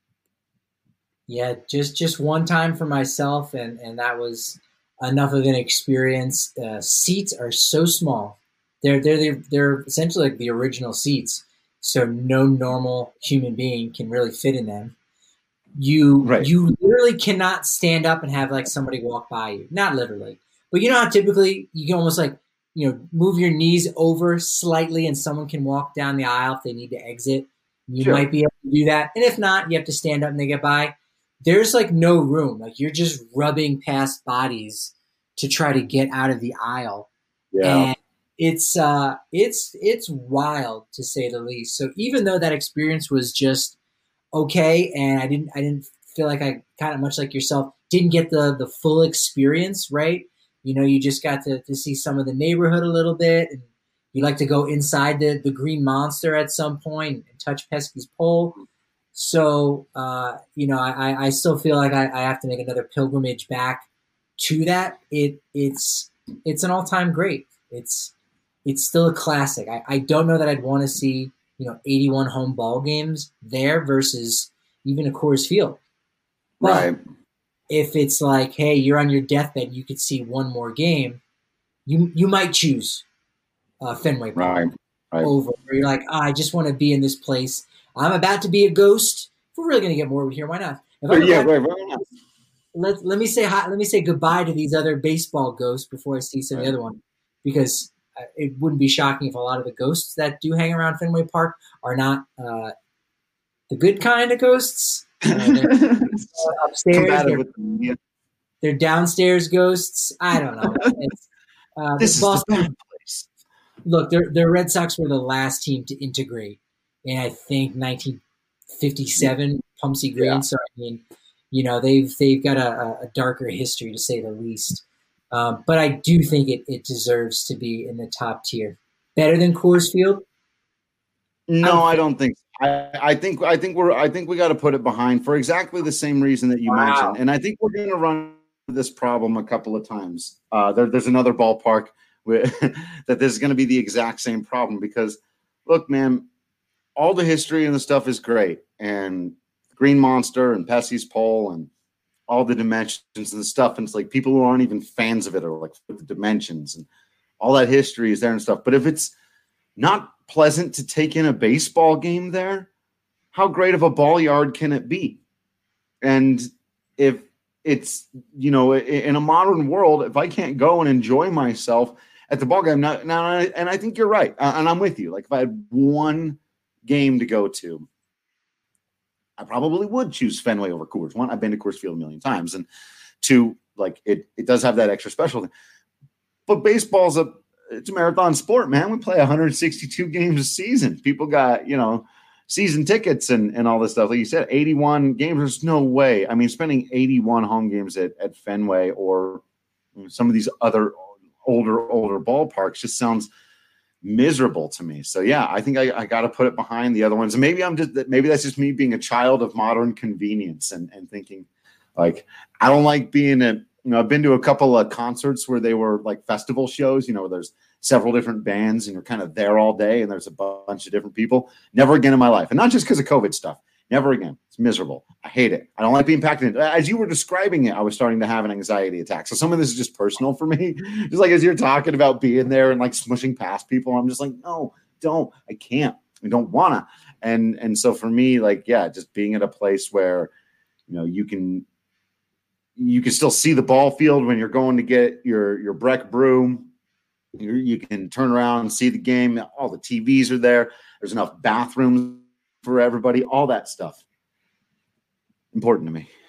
S5: Yeah, just just one time for myself, and, and that was enough of an experience. Uh, seats are so small; they're they're they're, they're essentially like the original seats, so no normal human being can really fit in them. You right. you literally cannot stand up and have like somebody walk by you. Not literally, but you know how typically you can almost like you know move your knees over slightly, and someone can walk down the aisle if they need to exit. You sure. might be able to do that, and if not, you have to stand up and they get by. There's like no room. Like you're just rubbing past bodies to try to get out of the aisle. Yeah. And it's uh it's it's wild, to say the least. So even though that experience was just okay, and I didn't I didn't feel like I kind of much like yourself, didn't get the the full experience, right? You know, you just got to, to see some of the neighborhood a little bit, and you like to go inside the, the Green Monster at some point and touch Pesky's pole. So, uh, you know, I, I still feel like I, I have to make another pilgrimage back to that. It it's it's an all time great. It's it's still a classic. I, I don't know that I'd want to see, you know, eighty-one home ball games there versus even a Coors Field. But right. If it's like, hey, you're on your deathbed, you could see one more game, you you might choose uh, Fenway Park right. Right. over. Where you're like, oh, I just want to be in this place. I'm about to be a ghost. If we're really going to get morbid here, why not? If I'm yeah, right, right. Let, let me say hi, let me say goodbye to these other baseball ghosts before I see some right. of the other one, because it wouldn't be shocking if a lot of the ghosts that do hang around Fenway Park are not uh, the good kind of ghosts. Uh, they're upstairs, they're, the, they're downstairs ghosts. I don't know. It's, uh,
S4: this Boston, is the bad place.
S5: Look, the the Red Sox were the last team to integrate. In I think nineteen fifty-seven, Pumpsie Green. Yeah. So I mean, you know, they've they've got a, a darker history, to say the least. Um, but I do think it, it deserves to be in the top tier. Better than Coors Field?
S4: No, I don't think. So. I, I think I think we're I think we got to put it behind for exactly the same reason that you wow. mentioned. And I think we're going to run this problem a couple of times. Uh, there, there's another ballpark where, that there's going to be the exact same problem, because, look, man. All the history and the stuff is great, and Green Monster and Pesky's pole and all the dimensions and the stuff. And it's like people who aren't even fans of it are like the dimensions and all that history is there and stuff. But if it's not pleasant to take in a baseball game there, how great of a ball yard can it be? And if it's, you know, in a modern world, if I can't go and enjoy myself at the ball game now, now and I think you're right, and I'm with you. Like if I had one game to go to, I probably would choose Fenway over Coors. One, I've been to Coors Field a million times, and two, like it, it does have that extra special thing. But baseball's a it's a marathon sport, man. We play one hundred sixty-two games a season. People got, you know, season tickets and, and all this stuff. Like you said, eighty-one games. There's no way. I mean, spending eighty-one home games at, at Fenway or some of these other older, older ballparks just sounds miserable to me. So yeah, I think I, I got to put it behind the other ones. And maybe I'm just, maybe that's just me being a child of modern convenience and, and thinking like, I don't like being a, you know, I've been to a couple of concerts where they were like festival shows, you know, where there's several different bands and you're kind of there all day and there's a bunch of different people. Never again in my life. And not just because of COVID stuff. Never again. It's miserable. I hate it. I don't like being packed in. As you were describing it, I was starting to have an anxiety attack. So some of this is just personal for me. Just like as you're talking about being there and like smushing past people, I'm just like, no, don't. I can't. I don't want to. And and so for me, like, yeah, just being at a place where, you know, you can you can still see the ball field when you're going to get your your Breck brew. You, you can turn around and see the game. All the T Vs are there. There's enough bathrooms for everybody, all that stuff. Important to me.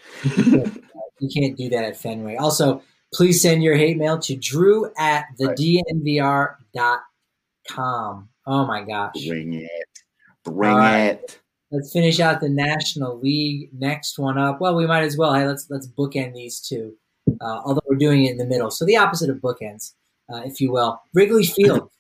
S5: You can't do that at Fenway. Also, please send your hate mail to drew at the D N V R dot com. Oh my gosh.
S4: Bring it. Bring
S5: right.
S4: it.
S5: Let's finish out the National League. Next one up. Well, we might as well. Hey, let's let's bookend these two. Uh, although we're doing it in the middle. So the opposite of bookends, uh, if you will. Wrigley Field.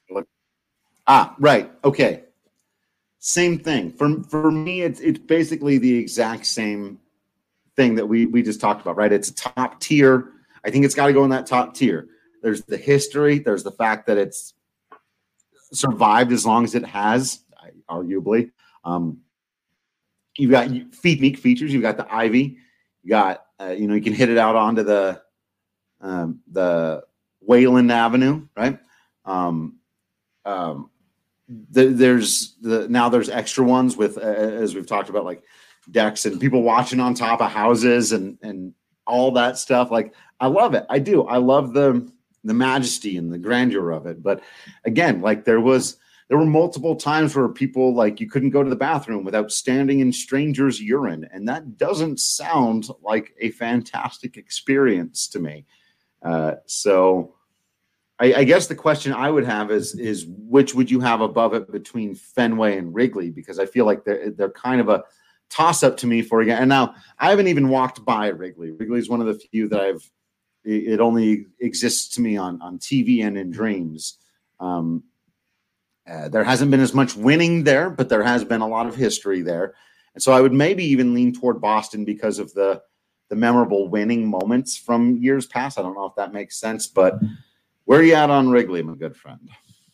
S4: ah, right. Okay. Same thing. For for me, it's it's basically the exact same thing that we we just talked about, right? It's a top tier. I think it's got to go in that top tier. There's the history. There's the fact that it's survived as long as it has, arguably. Um, you've got unique features. You've got the Ivy. You got uh, you know you can hit it out onto the um, the Wayland Avenue, right? Um, um, The, there's the now there's extra ones with uh, as we've talked about, like decks and people watching on top of houses and and all that stuff. Like I love it. I do. I love the the majesty and the grandeur of it. But again, like there was there were multiple times where people like you couldn't go to the bathroom without standing in strangers' urine, and that doesn't sound like a fantastic experience to me. Uh, so. I, I guess the question I would have is, is which would you have above it between Fenway and Wrigley? Because I feel like they're, they're kind of a toss-up to me for again. And now I haven't even walked by Wrigley. Wrigley is one of the few that I've – it only exists to me on, on T V and in dreams. Um, uh, there hasn't been as much winning there, but there has been a lot of history there. And so I would maybe even lean toward Boston because of the the memorable winning moments from years past. I don't know if that makes sense, but – where are you at on Wrigley, my good friend?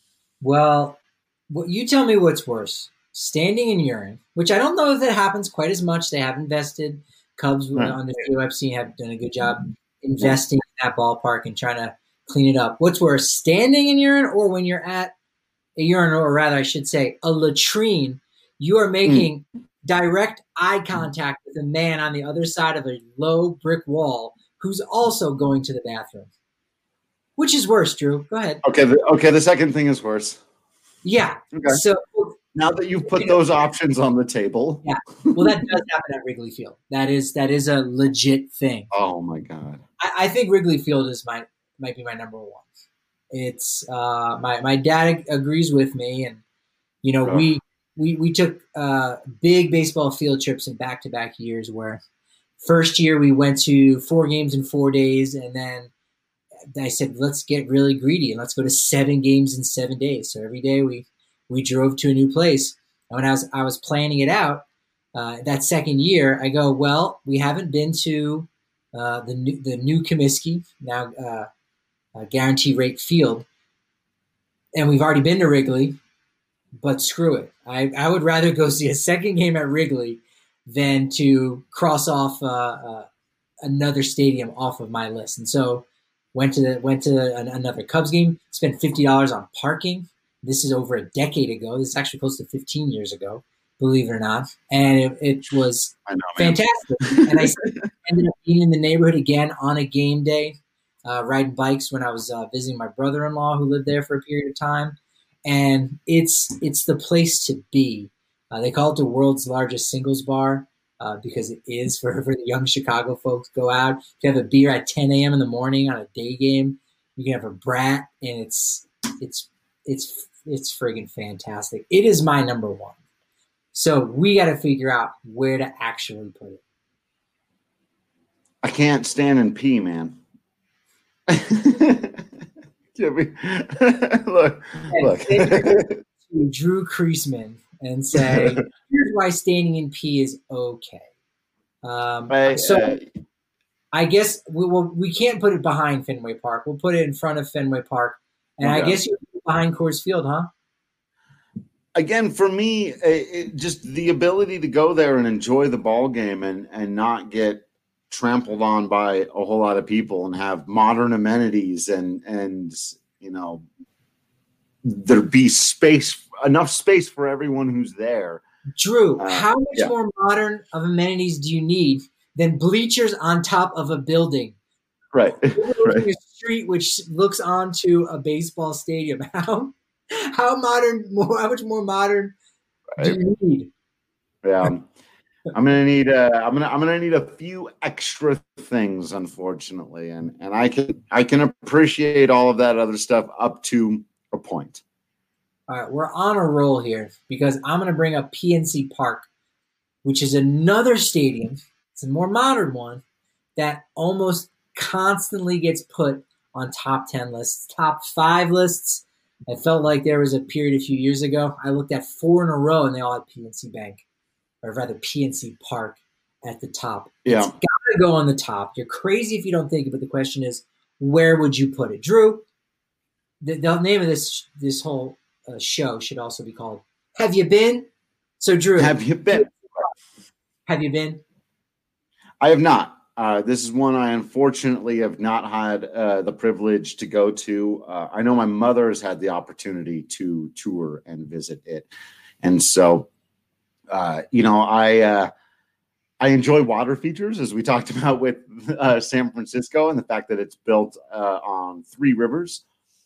S5: Well, you tell me what's worse. Standing in urine, which I don't know if that happens quite as much. They have invested. Cubs right. on the field I've seen have done a good job investing in that ballpark and trying to clean it up. What's worse, standing in urine or when you're at a urinal, or rather I should say a latrine, you are making mm. direct eye contact with a man on the other side of a low brick wall who's also going to the bathroom. Which is worse, Drew? Go ahead.
S4: Okay. The, okay. The second thing is worse.
S5: Yeah.
S4: Okay.
S5: So
S4: now that you've put those options on the table.
S5: Yeah. Well, that does happen at Wrigley Field. That is that is a legit thing.
S4: Oh my God.
S5: I, I think Wrigley Field is my might be my number one. It's uh, my my dad agrees with me, and you know oh. we we we took uh, big baseball field trips in back to back years. Where first year we went to four games in four days, and then I said, let's get really greedy and let's go to seven games in seven days. So every day we, we drove to a new place. And when I was, I was planning it out uh, that second year, I go, well, we haven't been to uh, the new, the new Comiskey, now uh, uh, Guarantee Rate Field. And we've already been to Wrigley, but screw it. I, I would rather go see a second game at Wrigley than to cross off uh, uh, another stadium off of my list. And so Went to the, went to an, another Cubs game, spent fifty dollars on parking. This is over a decade ago. This is actually close to fifteen years ago, believe it or not. And it, it was I know, fantastic. And I ended up being in the neighborhood again on a game day, uh, riding bikes when I was uh, visiting my brother-in-law who lived there for a period of time. And it's it's the place to be. Uh, they call it the world's largest singles bar. Uh, because it is for, for the young Chicago folks. Go out, you have a beer at ten a.m. in the morning on a day game. You can have a brat, and it's it's it's it's friggin' fantastic. It is my number one. So we got to figure out where to actually put it.
S4: I can't stand and pee, man. look, look.
S5: To Drew Creasman and say, here's why standing in pee is okay. Um,
S4: I,
S5: so
S4: uh,
S5: I guess we will, we can't put it behind Fenway Park. We'll put it in front of Fenway Park. And
S4: okay.
S5: I guess you're behind Coors Field, huh?
S4: Again, for me, it, it, just the ability to go there and enjoy the ball game and, and not get trampled on by a whole lot of people and have modern amenities and, and you know, there be space, enough space for everyone who's there.
S5: Drew,
S4: uh,
S5: how much
S4: yeah.
S5: more modern of amenities do you need than bleachers on top of a building?
S4: Right.
S5: right. A street which looks onto a baseball stadium. How how modern? More, how much more modern right. do you need?
S4: Yeah, I'm gonna need. Uh, I'm gonna. I'm gonna need a few extra things, unfortunately, and and I can I can appreciate all of that other stuff up to a point.
S5: All right, we're on a roll here because I'm gonna bring up P N C Park, which is another stadium. It's a more modern one that almost constantly gets put on top ten lists, top five lists. I felt like there was a period a few years ago. I looked at four in a row, and they all had P N C Bank, or rather P N C Park at the top.
S4: Yeah.
S5: It's got to go on the top. You're crazy if you don't think it, but the question is, where would you put it? Drew, the, the name of this this whole uh, show should also be called Have You Been? So, Drew.
S4: Have you been?
S5: Have you been?
S4: I have not. Uh, this is one I unfortunately have not had uh, the privilege to go to. Uh, I know my mother has had the opportunity to tour and visit it. And so, uh, you know, I uh, I enjoy water features, as we talked about with uh, San Francisco, and the fact that it's built uh, on three rivers,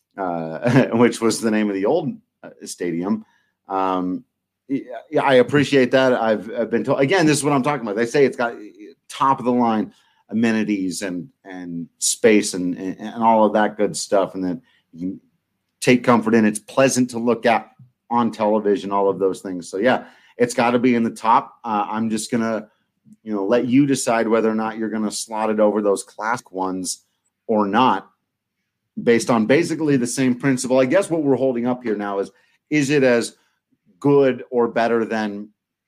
S4: uh, which was the name of the old uh, stadium. Um, yeah, I appreciate that. I've, I've been told, again, this is what I'm talking about. They say it's got top of the line amenities and and space and, and and all of that good stuff, and that you can take comfort in. It's pleasant to look at on television, all of those things. So yeah, it's got to be in the top. Uh, I'm just gonna, you know, let you decide whether or not you're gonna slot it over those classic ones or not, based on basically the same principle. I guess what we're holding up here now is is it as good or better than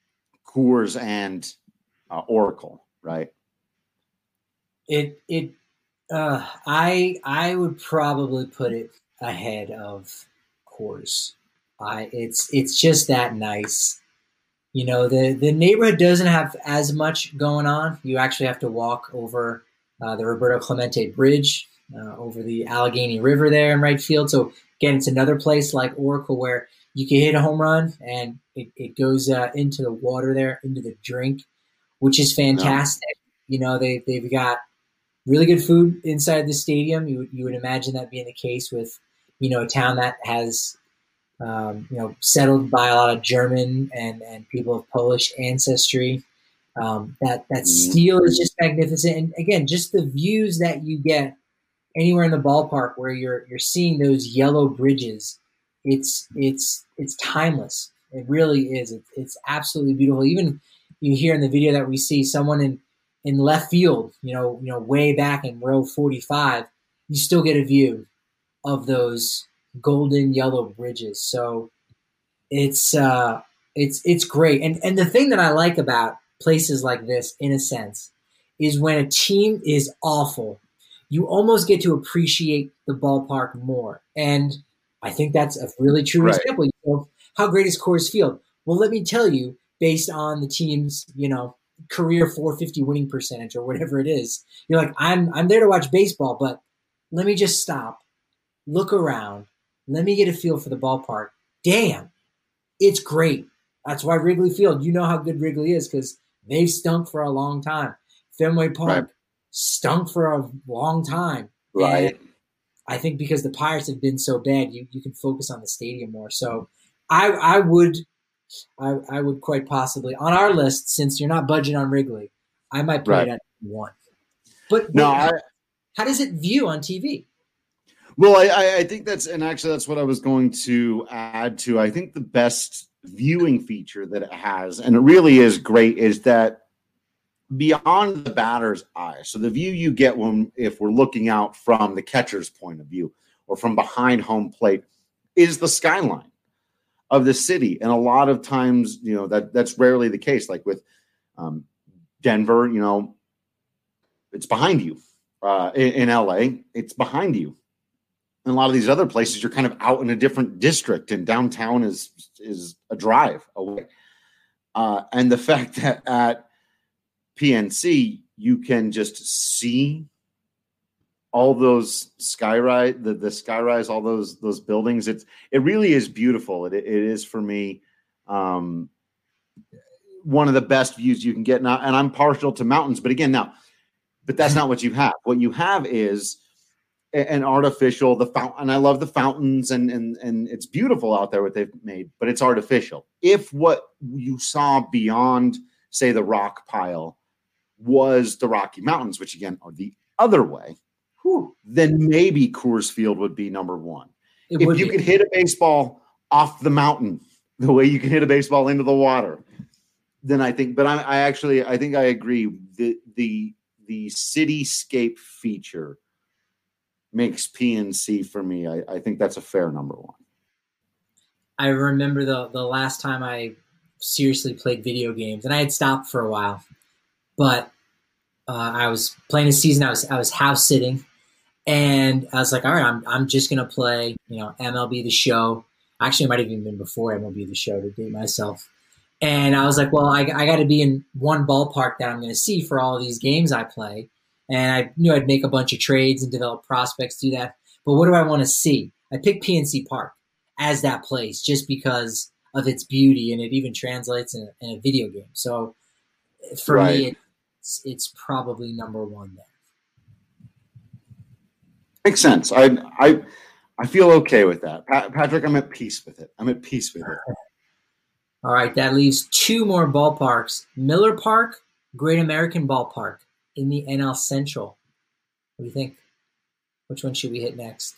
S4: Coors and uh, Oracle, right?
S5: It it uh, I I would probably put it ahead of Coors. I it's it's just that nice. You know, the the neighborhood doesn't have as much going on. You actually have to walk over uh, the Roberto Clemente Bridge, uh, over the Allegheny River there in right field. So again, it's another place like Oracle where you can hit a home run and it, it goes uh, into the water there, into the drink, which is fantastic. No. You know, they they've got really good food inside the stadium. You you would imagine that being the case with, you know, a town that has, um, you know, settled by a lot of German and, and people of Polish ancestry. Um, that that steel is just magnificent, and again, just the views that you get anywhere in the ballpark where you're you're seeing those yellow bridges. It's it's it's timeless. It really is. It, it's absolutely beautiful. Even you hear in the video that we see someone in. in left field, you know, you know, way back in row forty-five, you still get a view of those golden yellow bridges. So it's uh, it's it's great. And and the thing that I like about places like this, in a sense, is when a team is awful, you almost get to appreciate the ballpark more. And I think that's a really true
S4: right.
S5: example. You know, how great is Coors Field? Well, let me tell you, based on the team's, you know, career four fifty winning percentage or whatever it is, you're like, I'm I'm there to watch baseball, but let me just stop, look around, let me get a feel for the ballpark. Damn, it's great. That's why Wrigley Field, you know how good Wrigley is because they've stunk for a long time. Fenway Park right. stunk for a long time.
S4: Right.
S5: And I think because the Pirates have been so bad, you, you can focus on the stadium more. So I I would I, I would quite possibly, on our list, since you're not budging on Wrigley, I might put
S4: right.
S5: it at one. But
S4: no,
S5: wait, how,
S4: I,
S5: how does it view on T V?
S4: Well, I, I think that's, and actually that's what I was going to add to. I think the best viewing feature that it has, and it really is great, is that beyond the batter's eye, so the view you get when if we're looking out from the catcher's point of view or from behind home plate, is the skyline of the city. And a lot of times, you know, that that's rarely the case. Like with um, Denver, you know, it's behind you. Uh, in, in L A, it's behind you. And a lot of these other places, you're kind of out in a different district, and downtown is is a drive away. Uh, and the fact that at P N C, you can just see all those skyrise, the, the skyrise, all those those buildings. It's it really is beautiful. It it is for me um, one of the best views you can get. Now, and I'm partial to mountains, but again, now, but that's not what you have. What you have is an artificial the fountain. And I love the fountains, and and and it's beautiful out there what they've made, but it's artificial. If what you saw beyond, say, the rock pile was the Rocky Mountains, which again are the other way, whew, then maybe Coors Field would be number one. It if you be. could hit a baseball off the mountain the way you can hit a baseball into the water, then I think. But I, I actually I think I agree. The the the cityscape feature makes P N C for me. I, I think that's a fair number one.
S5: I remember the the last time I seriously played video games, and I had stopped for a while. But uh, I was playing a season. I was I was house sitting, and I was like, all right, I'm I'm just gonna play, you know, M L B The Show. Actually, it might have even been before M L B The Show, to date myself. And I was like, well, I I got to be in one ballpark that I'm going to see for all of these games I play. And I knew I'd make a bunch of trades and develop prospects, do that. But what do I want to see? I picked P N C Park as that place just because of its beauty, and it even translates in a, in a video game. So for right. me, it's, it's probably number one there.
S4: Makes sense. I I I feel okay with that. Pa- Patrick, I'm at peace with it. I'm at peace with it.
S5: All right, that leaves two more ballparks. Miller Park, Great American Ballpark in the N L Central. What do you think? Which one should we hit next?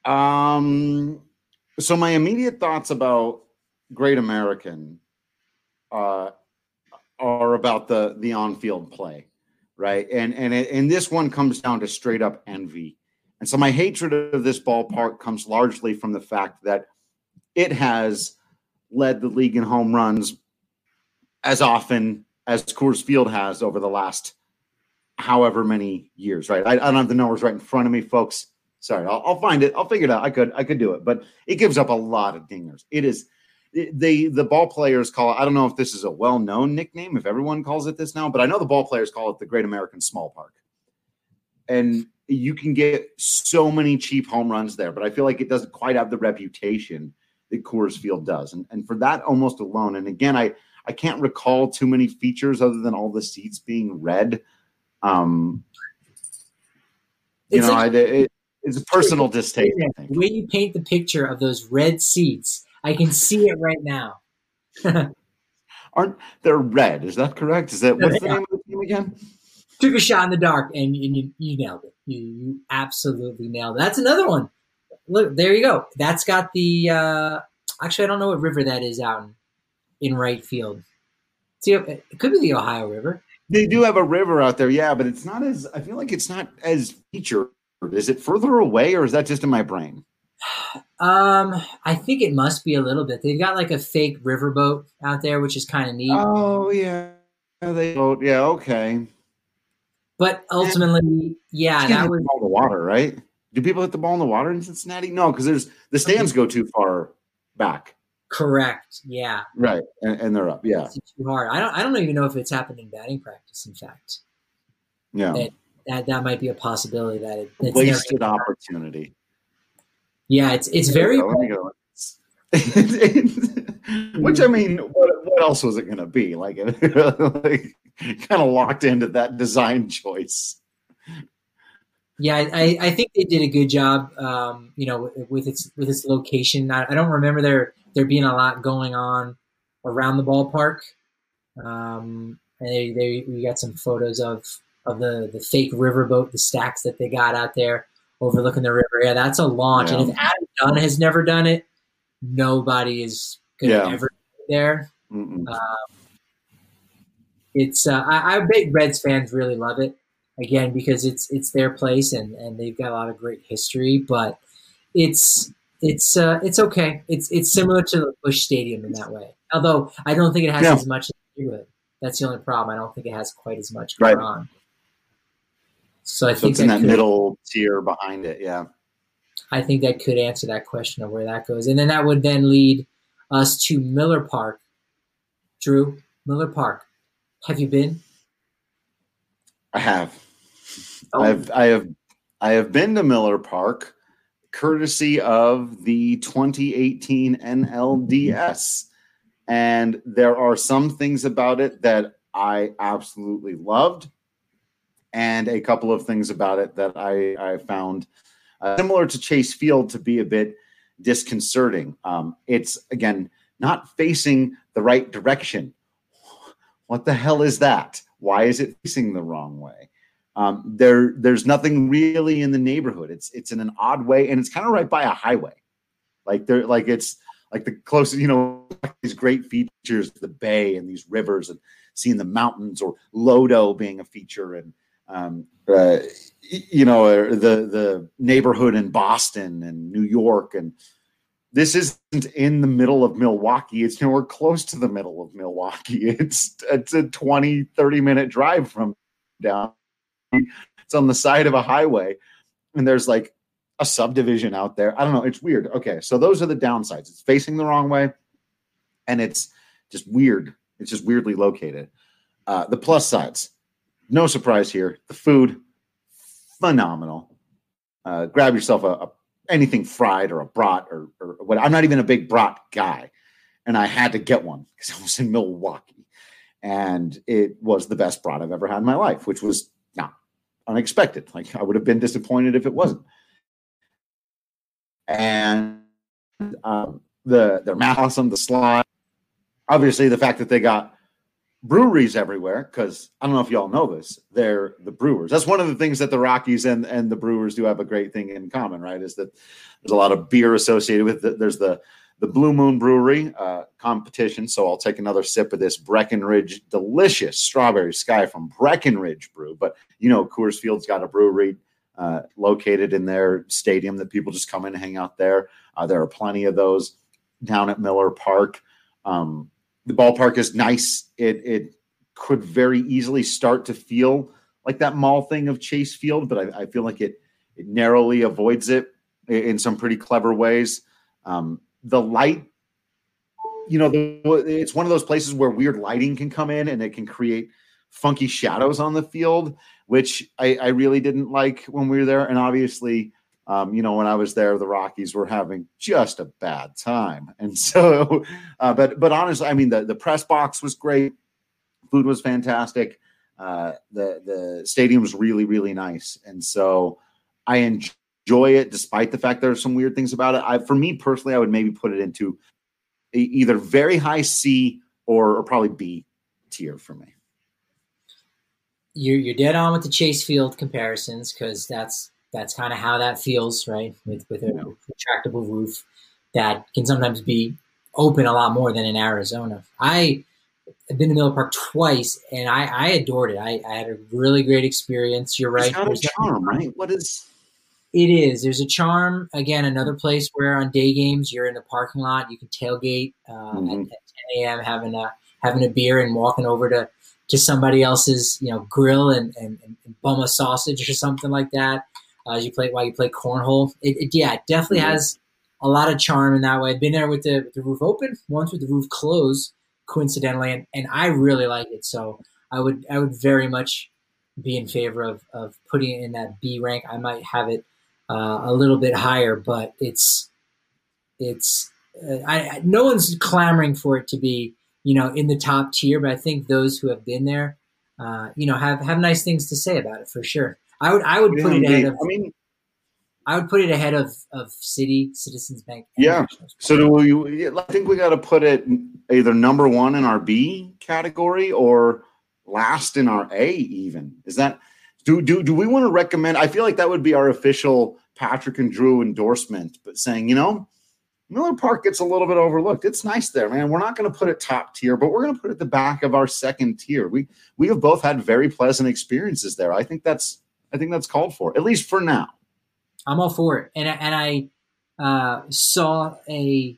S4: Um, so my immediate thoughts about Great American uh, are about the the on-field play, right? And and it, and this one comes down to straight up envy. And so my hatred of this ballpark comes largely from the fact that it has led the league in home runs as often as Coors Field has over the last however many years, right? I, I don't have the numbers right in front of me, folks. Sorry, I'll, I'll find it. I'll figure it out. I could, I could do it, but it gives up a lot of dingers. It is they, the ball players call it, I don't know if this is a well-known nickname, if everyone calls it this now, but I know the ball players call it the Great American Small Park. And you can get so many cheap home runs there, but I feel like it doesn't quite have the reputation that Coors Field does. And, and for that almost alone, and again, I, I can't recall too many features other than all the seats being red. Um, you it's know, like, I, it, it's a personal distaste. I think.
S5: The way you paint the picture of those red seats, I can see it right now.
S4: Aren't they red? Is that correct? Is that what's the name of the team again?
S5: Took a shot in the dark, and, and you, you nailed it. You, you absolutely nailed it. That's another one. Look, there you go. That's got the uh, – actually, I don't know what river that is out in, in right field. See, it could be the Ohio River.
S4: They do have a river out there, yeah, but it's not as – I feel like it's not as featured. Is it further away, or is that just in my brain?
S5: Um, I think it must be a little bit. They've got like a fake riverboat out there, which is kind of neat.
S4: Oh, yeah. They boat. Yeah, okay.
S5: But ultimately, yeah, that was
S4: – the water, right? Do people hit the ball in the water in Cincinnati? No, because there's the stands go too far back.
S5: Correct. Yeah.
S4: Right, and, and they're up. Yeah.
S5: It's too hard. I don't. I don't even know if it's happened in batting practice. In fact.
S4: Yeah.
S5: That that, that might be a possibility. That it it's
S4: wasted opportunity.
S5: Yeah, it's it's very.
S4: Go, let me go. Which I mean, what, what else was it going to be? Like, like kind of locked into that design choice.
S5: Yeah, I, I think they did a good job, um, you know, with its with its location. I, I don't remember there there being a lot going on around the ballpark. Um, and they, they we got some photos of of the, the fake riverboat, the stacks that they got out there overlooking the river. Yeah, that's a launch. Yeah. And if Adam Dunn has never done it, nobody is going to yeah. ever do there.
S4: Mm-mm.
S5: Um, it's uh, I, I bet Reds fans really love it again because it's it's their place and, and they've got a lot of great history. But it's it's uh, it's okay. It's it's similar to the Busch Stadium in that way. Although I don't think it has
S4: Yeah.
S5: as much to do with it. That's the only problem. I don't think it has quite as much
S4: Right.
S5: going on. So I
S4: So
S5: think
S4: it's in that
S5: could,
S4: middle tier behind it. Yeah.
S5: I think that could answer that question of where that goes. And then that would then lead us to Miller Park. Drew, Miller Park. Have you been?
S4: I have.
S5: Oh.
S4: I've I have I have been to Miller Park courtesy of the twenty eighteen N L D S. And there are some things about it that I absolutely loved, and a couple of things about it that I, I found uh, similar to Chase Field to be a bit disconcerting. Um, it's, again, not facing the right direction. What the hell is that? Why is it facing the wrong way? Um, there, there's nothing really in the neighborhood. It's it's in an odd way, and it's kind of right by a highway. Like there, like it's like the closest, you know, these great features, the bay and these rivers, and seeing the mountains, or Lodo being a feature, and um, uh, you know, the the neighborhood in Boston and New York, and this isn't in the middle of Milwaukee. It's nowhere close to the middle of Milwaukee. It's it's a twenty, thirty minute drive from down. It's on the side of a highway, and there's like a subdivision out there. I don't know. It's weird. Okay, so those are the downsides. It's facing the wrong way, and it's just weird. It's just weirdly located. Uh, the plus sides, no surprise here. The food, phenomenal. Uh, grab yourself a, a anything fried or a brat or, or what. I'm not even a big brat guy, and I had to get one because I was in Milwaukee, and it was the best brat I've ever had in my life, which was not unexpected. Like, I would have been disappointed if it wasn't. And um, the their math awesome, the slide. Obviously, the fact that they got breweries everywhere, because I don't know if y'all know this, they're the Brewers. That's one of the things that the Rockies and, and the Brewers do have a great thing in common, right? Is that there's a lot of beer associated with it. There's the the Blue Moon Brewery uh, competition. So I'll take another sip of this Breckenridge, delicious strawberry sky from Breckenridge Brew. But you know, Coors Field's got a brewery uh, located in their stadium that people just come in and hang out there. Uh, there are plenty of those down at Miller Park. Um, the ballpark is nice. It it could very easily start to feel like that mall thing of Chase Field, but I, I feel like it it narrowly avoids it in some pretty clever ways. Um, the light, you know, the, it's one of those places where weird lighting can come in and it can create funky shadows on the field, which I, I really didn't like when we were there. And obviously, Um, you know, when I was there, the Rockies were having just a bad time. And so, uh, but, but honestly, I mean, the, the press box was great. Food was fantastic. Uh, the, the stadium was really, really nice. And so I enjoy it despite the fact there are some weird things about it. I, for me personally, I would maybe put it into a, either very high C or, or probably B tier for me.
S5: You're, you're dead on with the Chase Field comparisons, because that's, That's kind of how that feels, right? With with a retractable roof that can sometimes be open a lot more than in Arizona. I have been to Miller Park twice, and I, I adored it. I, I had a really great experience. You're right.
S4: It's got a charm, right? What is?
S5: It is. There's a charm. Again, another place where on day games you're in the parking lot. You can tailgate uh, mm-hmm. at, at ten a.m. having a having a beer and walking over to, to somebody else's you know grill and, and, and bum a sausage or something like that. Uh, as you play while you play cornhole, it, it yeah, it definitely mm-hmm. has a lot of charm in that way. I've been there with the, with the roof open, once with the roof closed, coincidentally, and, and I really like it. So I would I would very much be in favor of of putting it in that B rank. I might have it uh, a little bit higher, but it's it's uh, I, I no one's clamoring for it to be you know in the top tier, but I think those who have been there, uh, you know, have have nice things to say about it for sure. I would I would put it ahead of I mean I would put it ahead of, of Citi, Citizens Bank.
S4: Yeah. So do we I think we gotta put it either number one in our B category or last in our A even. Is that do do do we want to recommend? I feel like that would be our official Patrick and Drew endorsement, but saying, you know, Miller Park gets a little bit overlooked. It's nice there, man. We're not going to put it top tier, but we're going to put it at the back of our second tier. We we have both had very pleasant experiences there. I think that's I think that's called for, at least for now.
S5: I'm all for it. And and I uh, saw a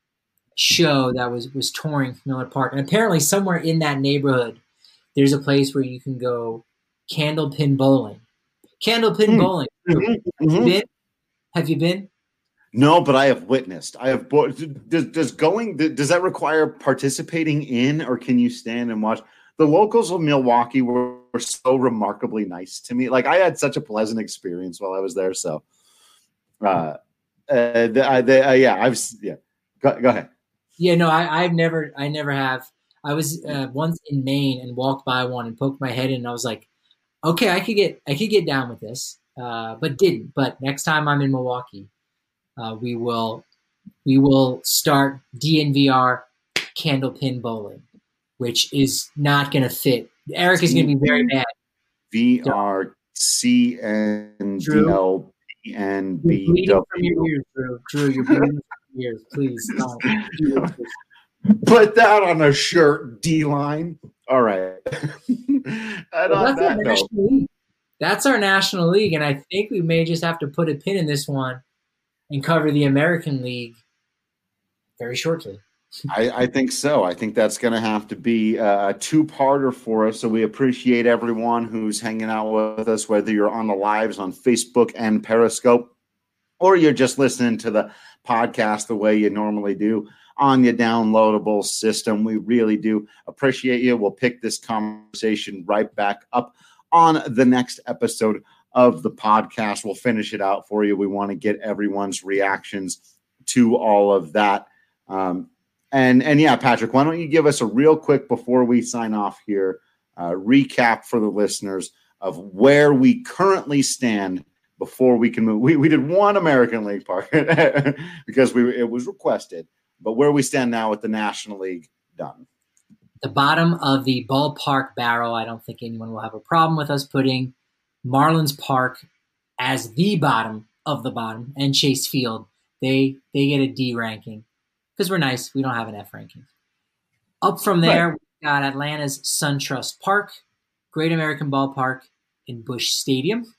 S5: show that was was touring Miller Park, and apparently somewhere in that neighborhood, there's a place where you can go candlepin bowling. Candlepin mm. bowling.
S4: Mm-hmm.
S5: Have you been? Have you been?
S4: No, but I have witnessed. I have. Does, does going? Does that require participating in, or can you stand and watch? The locals of Milwaukee were, were so remarkably nice to me. Like I had such a pleasant experience while I was there. So, uh, uh, the, the, uh yeah, I've yeah. Go, go ahead.
S5: Yeah, no, I, I've never, I never have. I was uh, once in Maine and walked by one and poked my head in, and I was like, okay, I could get, I could get down with this, uh, but didn't. But next time I'm in Milwaukee. Uh, we will we will start D N V R candlepin bowling, which is not going to fit. Eric is going to be very mad.
S4: V R C N D L P N B W.
S5: From your ears, Drew. Drew, you're bleeding from your ears. Please don't.
S4: Put that on a shirt, D-line. All right.
S5: Well, that's, that, our national league. That's our national league, and I think we may just have to put a pin in this one and cover the American League very shortly.
S4: I, I think so. I think that's going to have to be a two-parter for us. So we appreciate everyone who's hanging out with us, whether you're on the lives on Facebook and Periscope, or you're just listening to the podcast the way you normally do on your downloadable system. We really do appreciate you. We'll pick this conversation right back up on the next episode of the podcast. We'll finish it out for you. We want to get everyone's reactions to all of that. Um, and, and yeah, Patrick, why don't you give us a real quick, before we sign off here, uh, recap for the listeners of where we currently stand before we can move. We, we did one American League part because we it was requested, but where we stand now with the National League done.
S5: The bottom of the ballpark barrel, I don't think anyone will have a problem with us putting Marlins Park as the bottom of the bottom, and Chase Field, they they get a D ranking because we're nice. We don't have an F ranking. Up from there, right. We got Atlanta's SunTrust Park, Great American Ballpark, and Busch Stadium.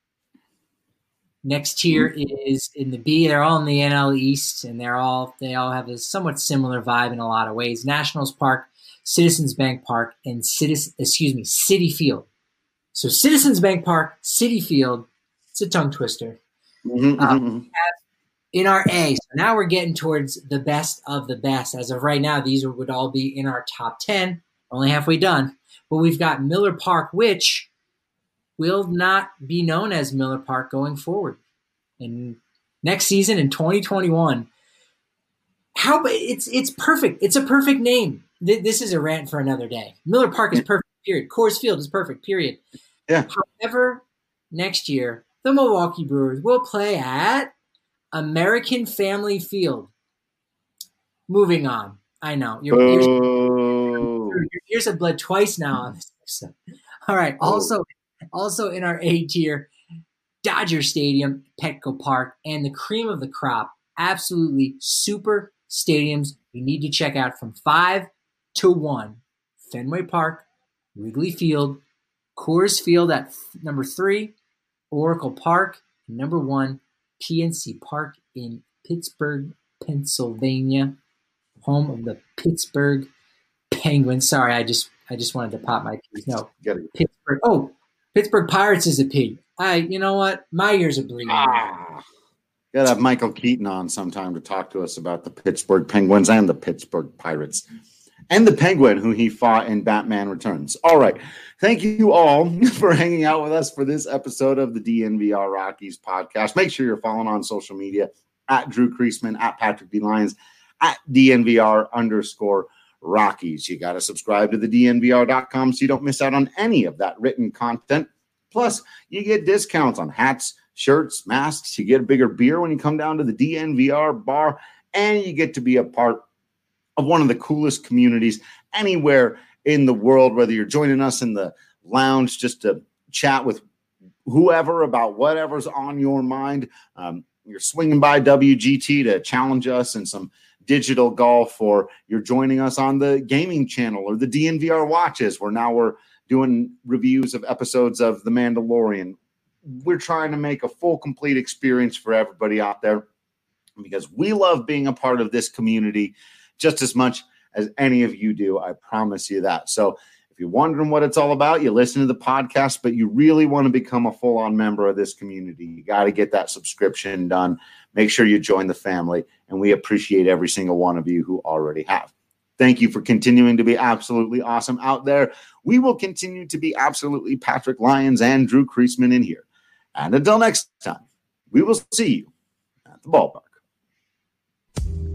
S5: Next tier mm-hmm. is in the B. They're all in the N L East, and they're all they all have a somewhat similar vibe in a lot of ways. Nationals Park, Citizens Bank Park, and Citizen, excuse me, Citi Field. So Citizens Bank Park, Citi Field, it's a tongue twister.
S4: Mm-hmm,
S5: um,
S4: mm-hmm.
S5: In our A, so now we're getting towards the best of the best. As of right now, these would all be in our top ten. Only halfway done. But we've got Miller Park, which will not be known as Miller Park going forward. And next season in twenty twenty-one, how it's it's perfect. It's a perfect name. This is a rant for another day. Miller Park is perfect. Period. Coors Field is perfect, period.
S4: Yeah.
S5: However, next year, the Milwaukee Brewers will play at American Family Field. Moving on. I know. Your ears, your ears have bled twice now on this episode. All right. Also, also in our A tier, Dodger Stadium, Petco Park, and the cream of the crop. Absolutely super stadiums you need to check out from five to one. Fenway Park, Wrigley Field, Coors Field at f- number three, Oracle Park, and number one, P N C Park in Pittsburgh, Pennsylvania, home of the Pittsburgh Penguins. Sorry, I just I just wanted to pop my P's. No, Pittsburgh. Oh, Pittsburgh Pirates is a P. I, you know what? My ears are bleeding.
S4: Ah, gotta have Michael Keaton on sometime to talk to us about the Pittsburgh Penguins and the Pittsburgh Pirates. And the Penguin, who he fought in Batman Returns. All right. Thank you all for hanging out with us for this episode of the D N V R Rockies podcast. Make sure you're following on social media at Drew Creasman, at Patrick D. Lyons, at D N V R underscore Rockies. You got to subscribe to the D N V R dot com so you don't miss out on any of that written content. Plus, you get discounts on hats, shirts, masks. You get a bigger beer when you come down to the D N V R bar, and you get to be a part of one of the coolest communities anywhere in the world, whether you're joining us in the lounge just to chat with whoever about whatever's on your mind. Um, you're swinging by W G T to challenge us in some digital golf, or you're joining us on the gaming channel or the D N V R watches, where now we're doing reviews of episodes of The Mandalorian. We're trying to make a full, complete experience for everybody out there, because we love being a part of this community just as much as any of you do. I promise you that. So if you're wondering what it's all about, you listen to the podcast, but you really want to become a full-on member of this community, you got to get that subscription done. Make sure you join the family, and we appreciate every single one of you who already have. Thank you for continuing to be absolutely awesome out there. We will continue to be absolutely Patrick Lyons and Drew Creasman in here. And until next time, we will see you at the ballpark.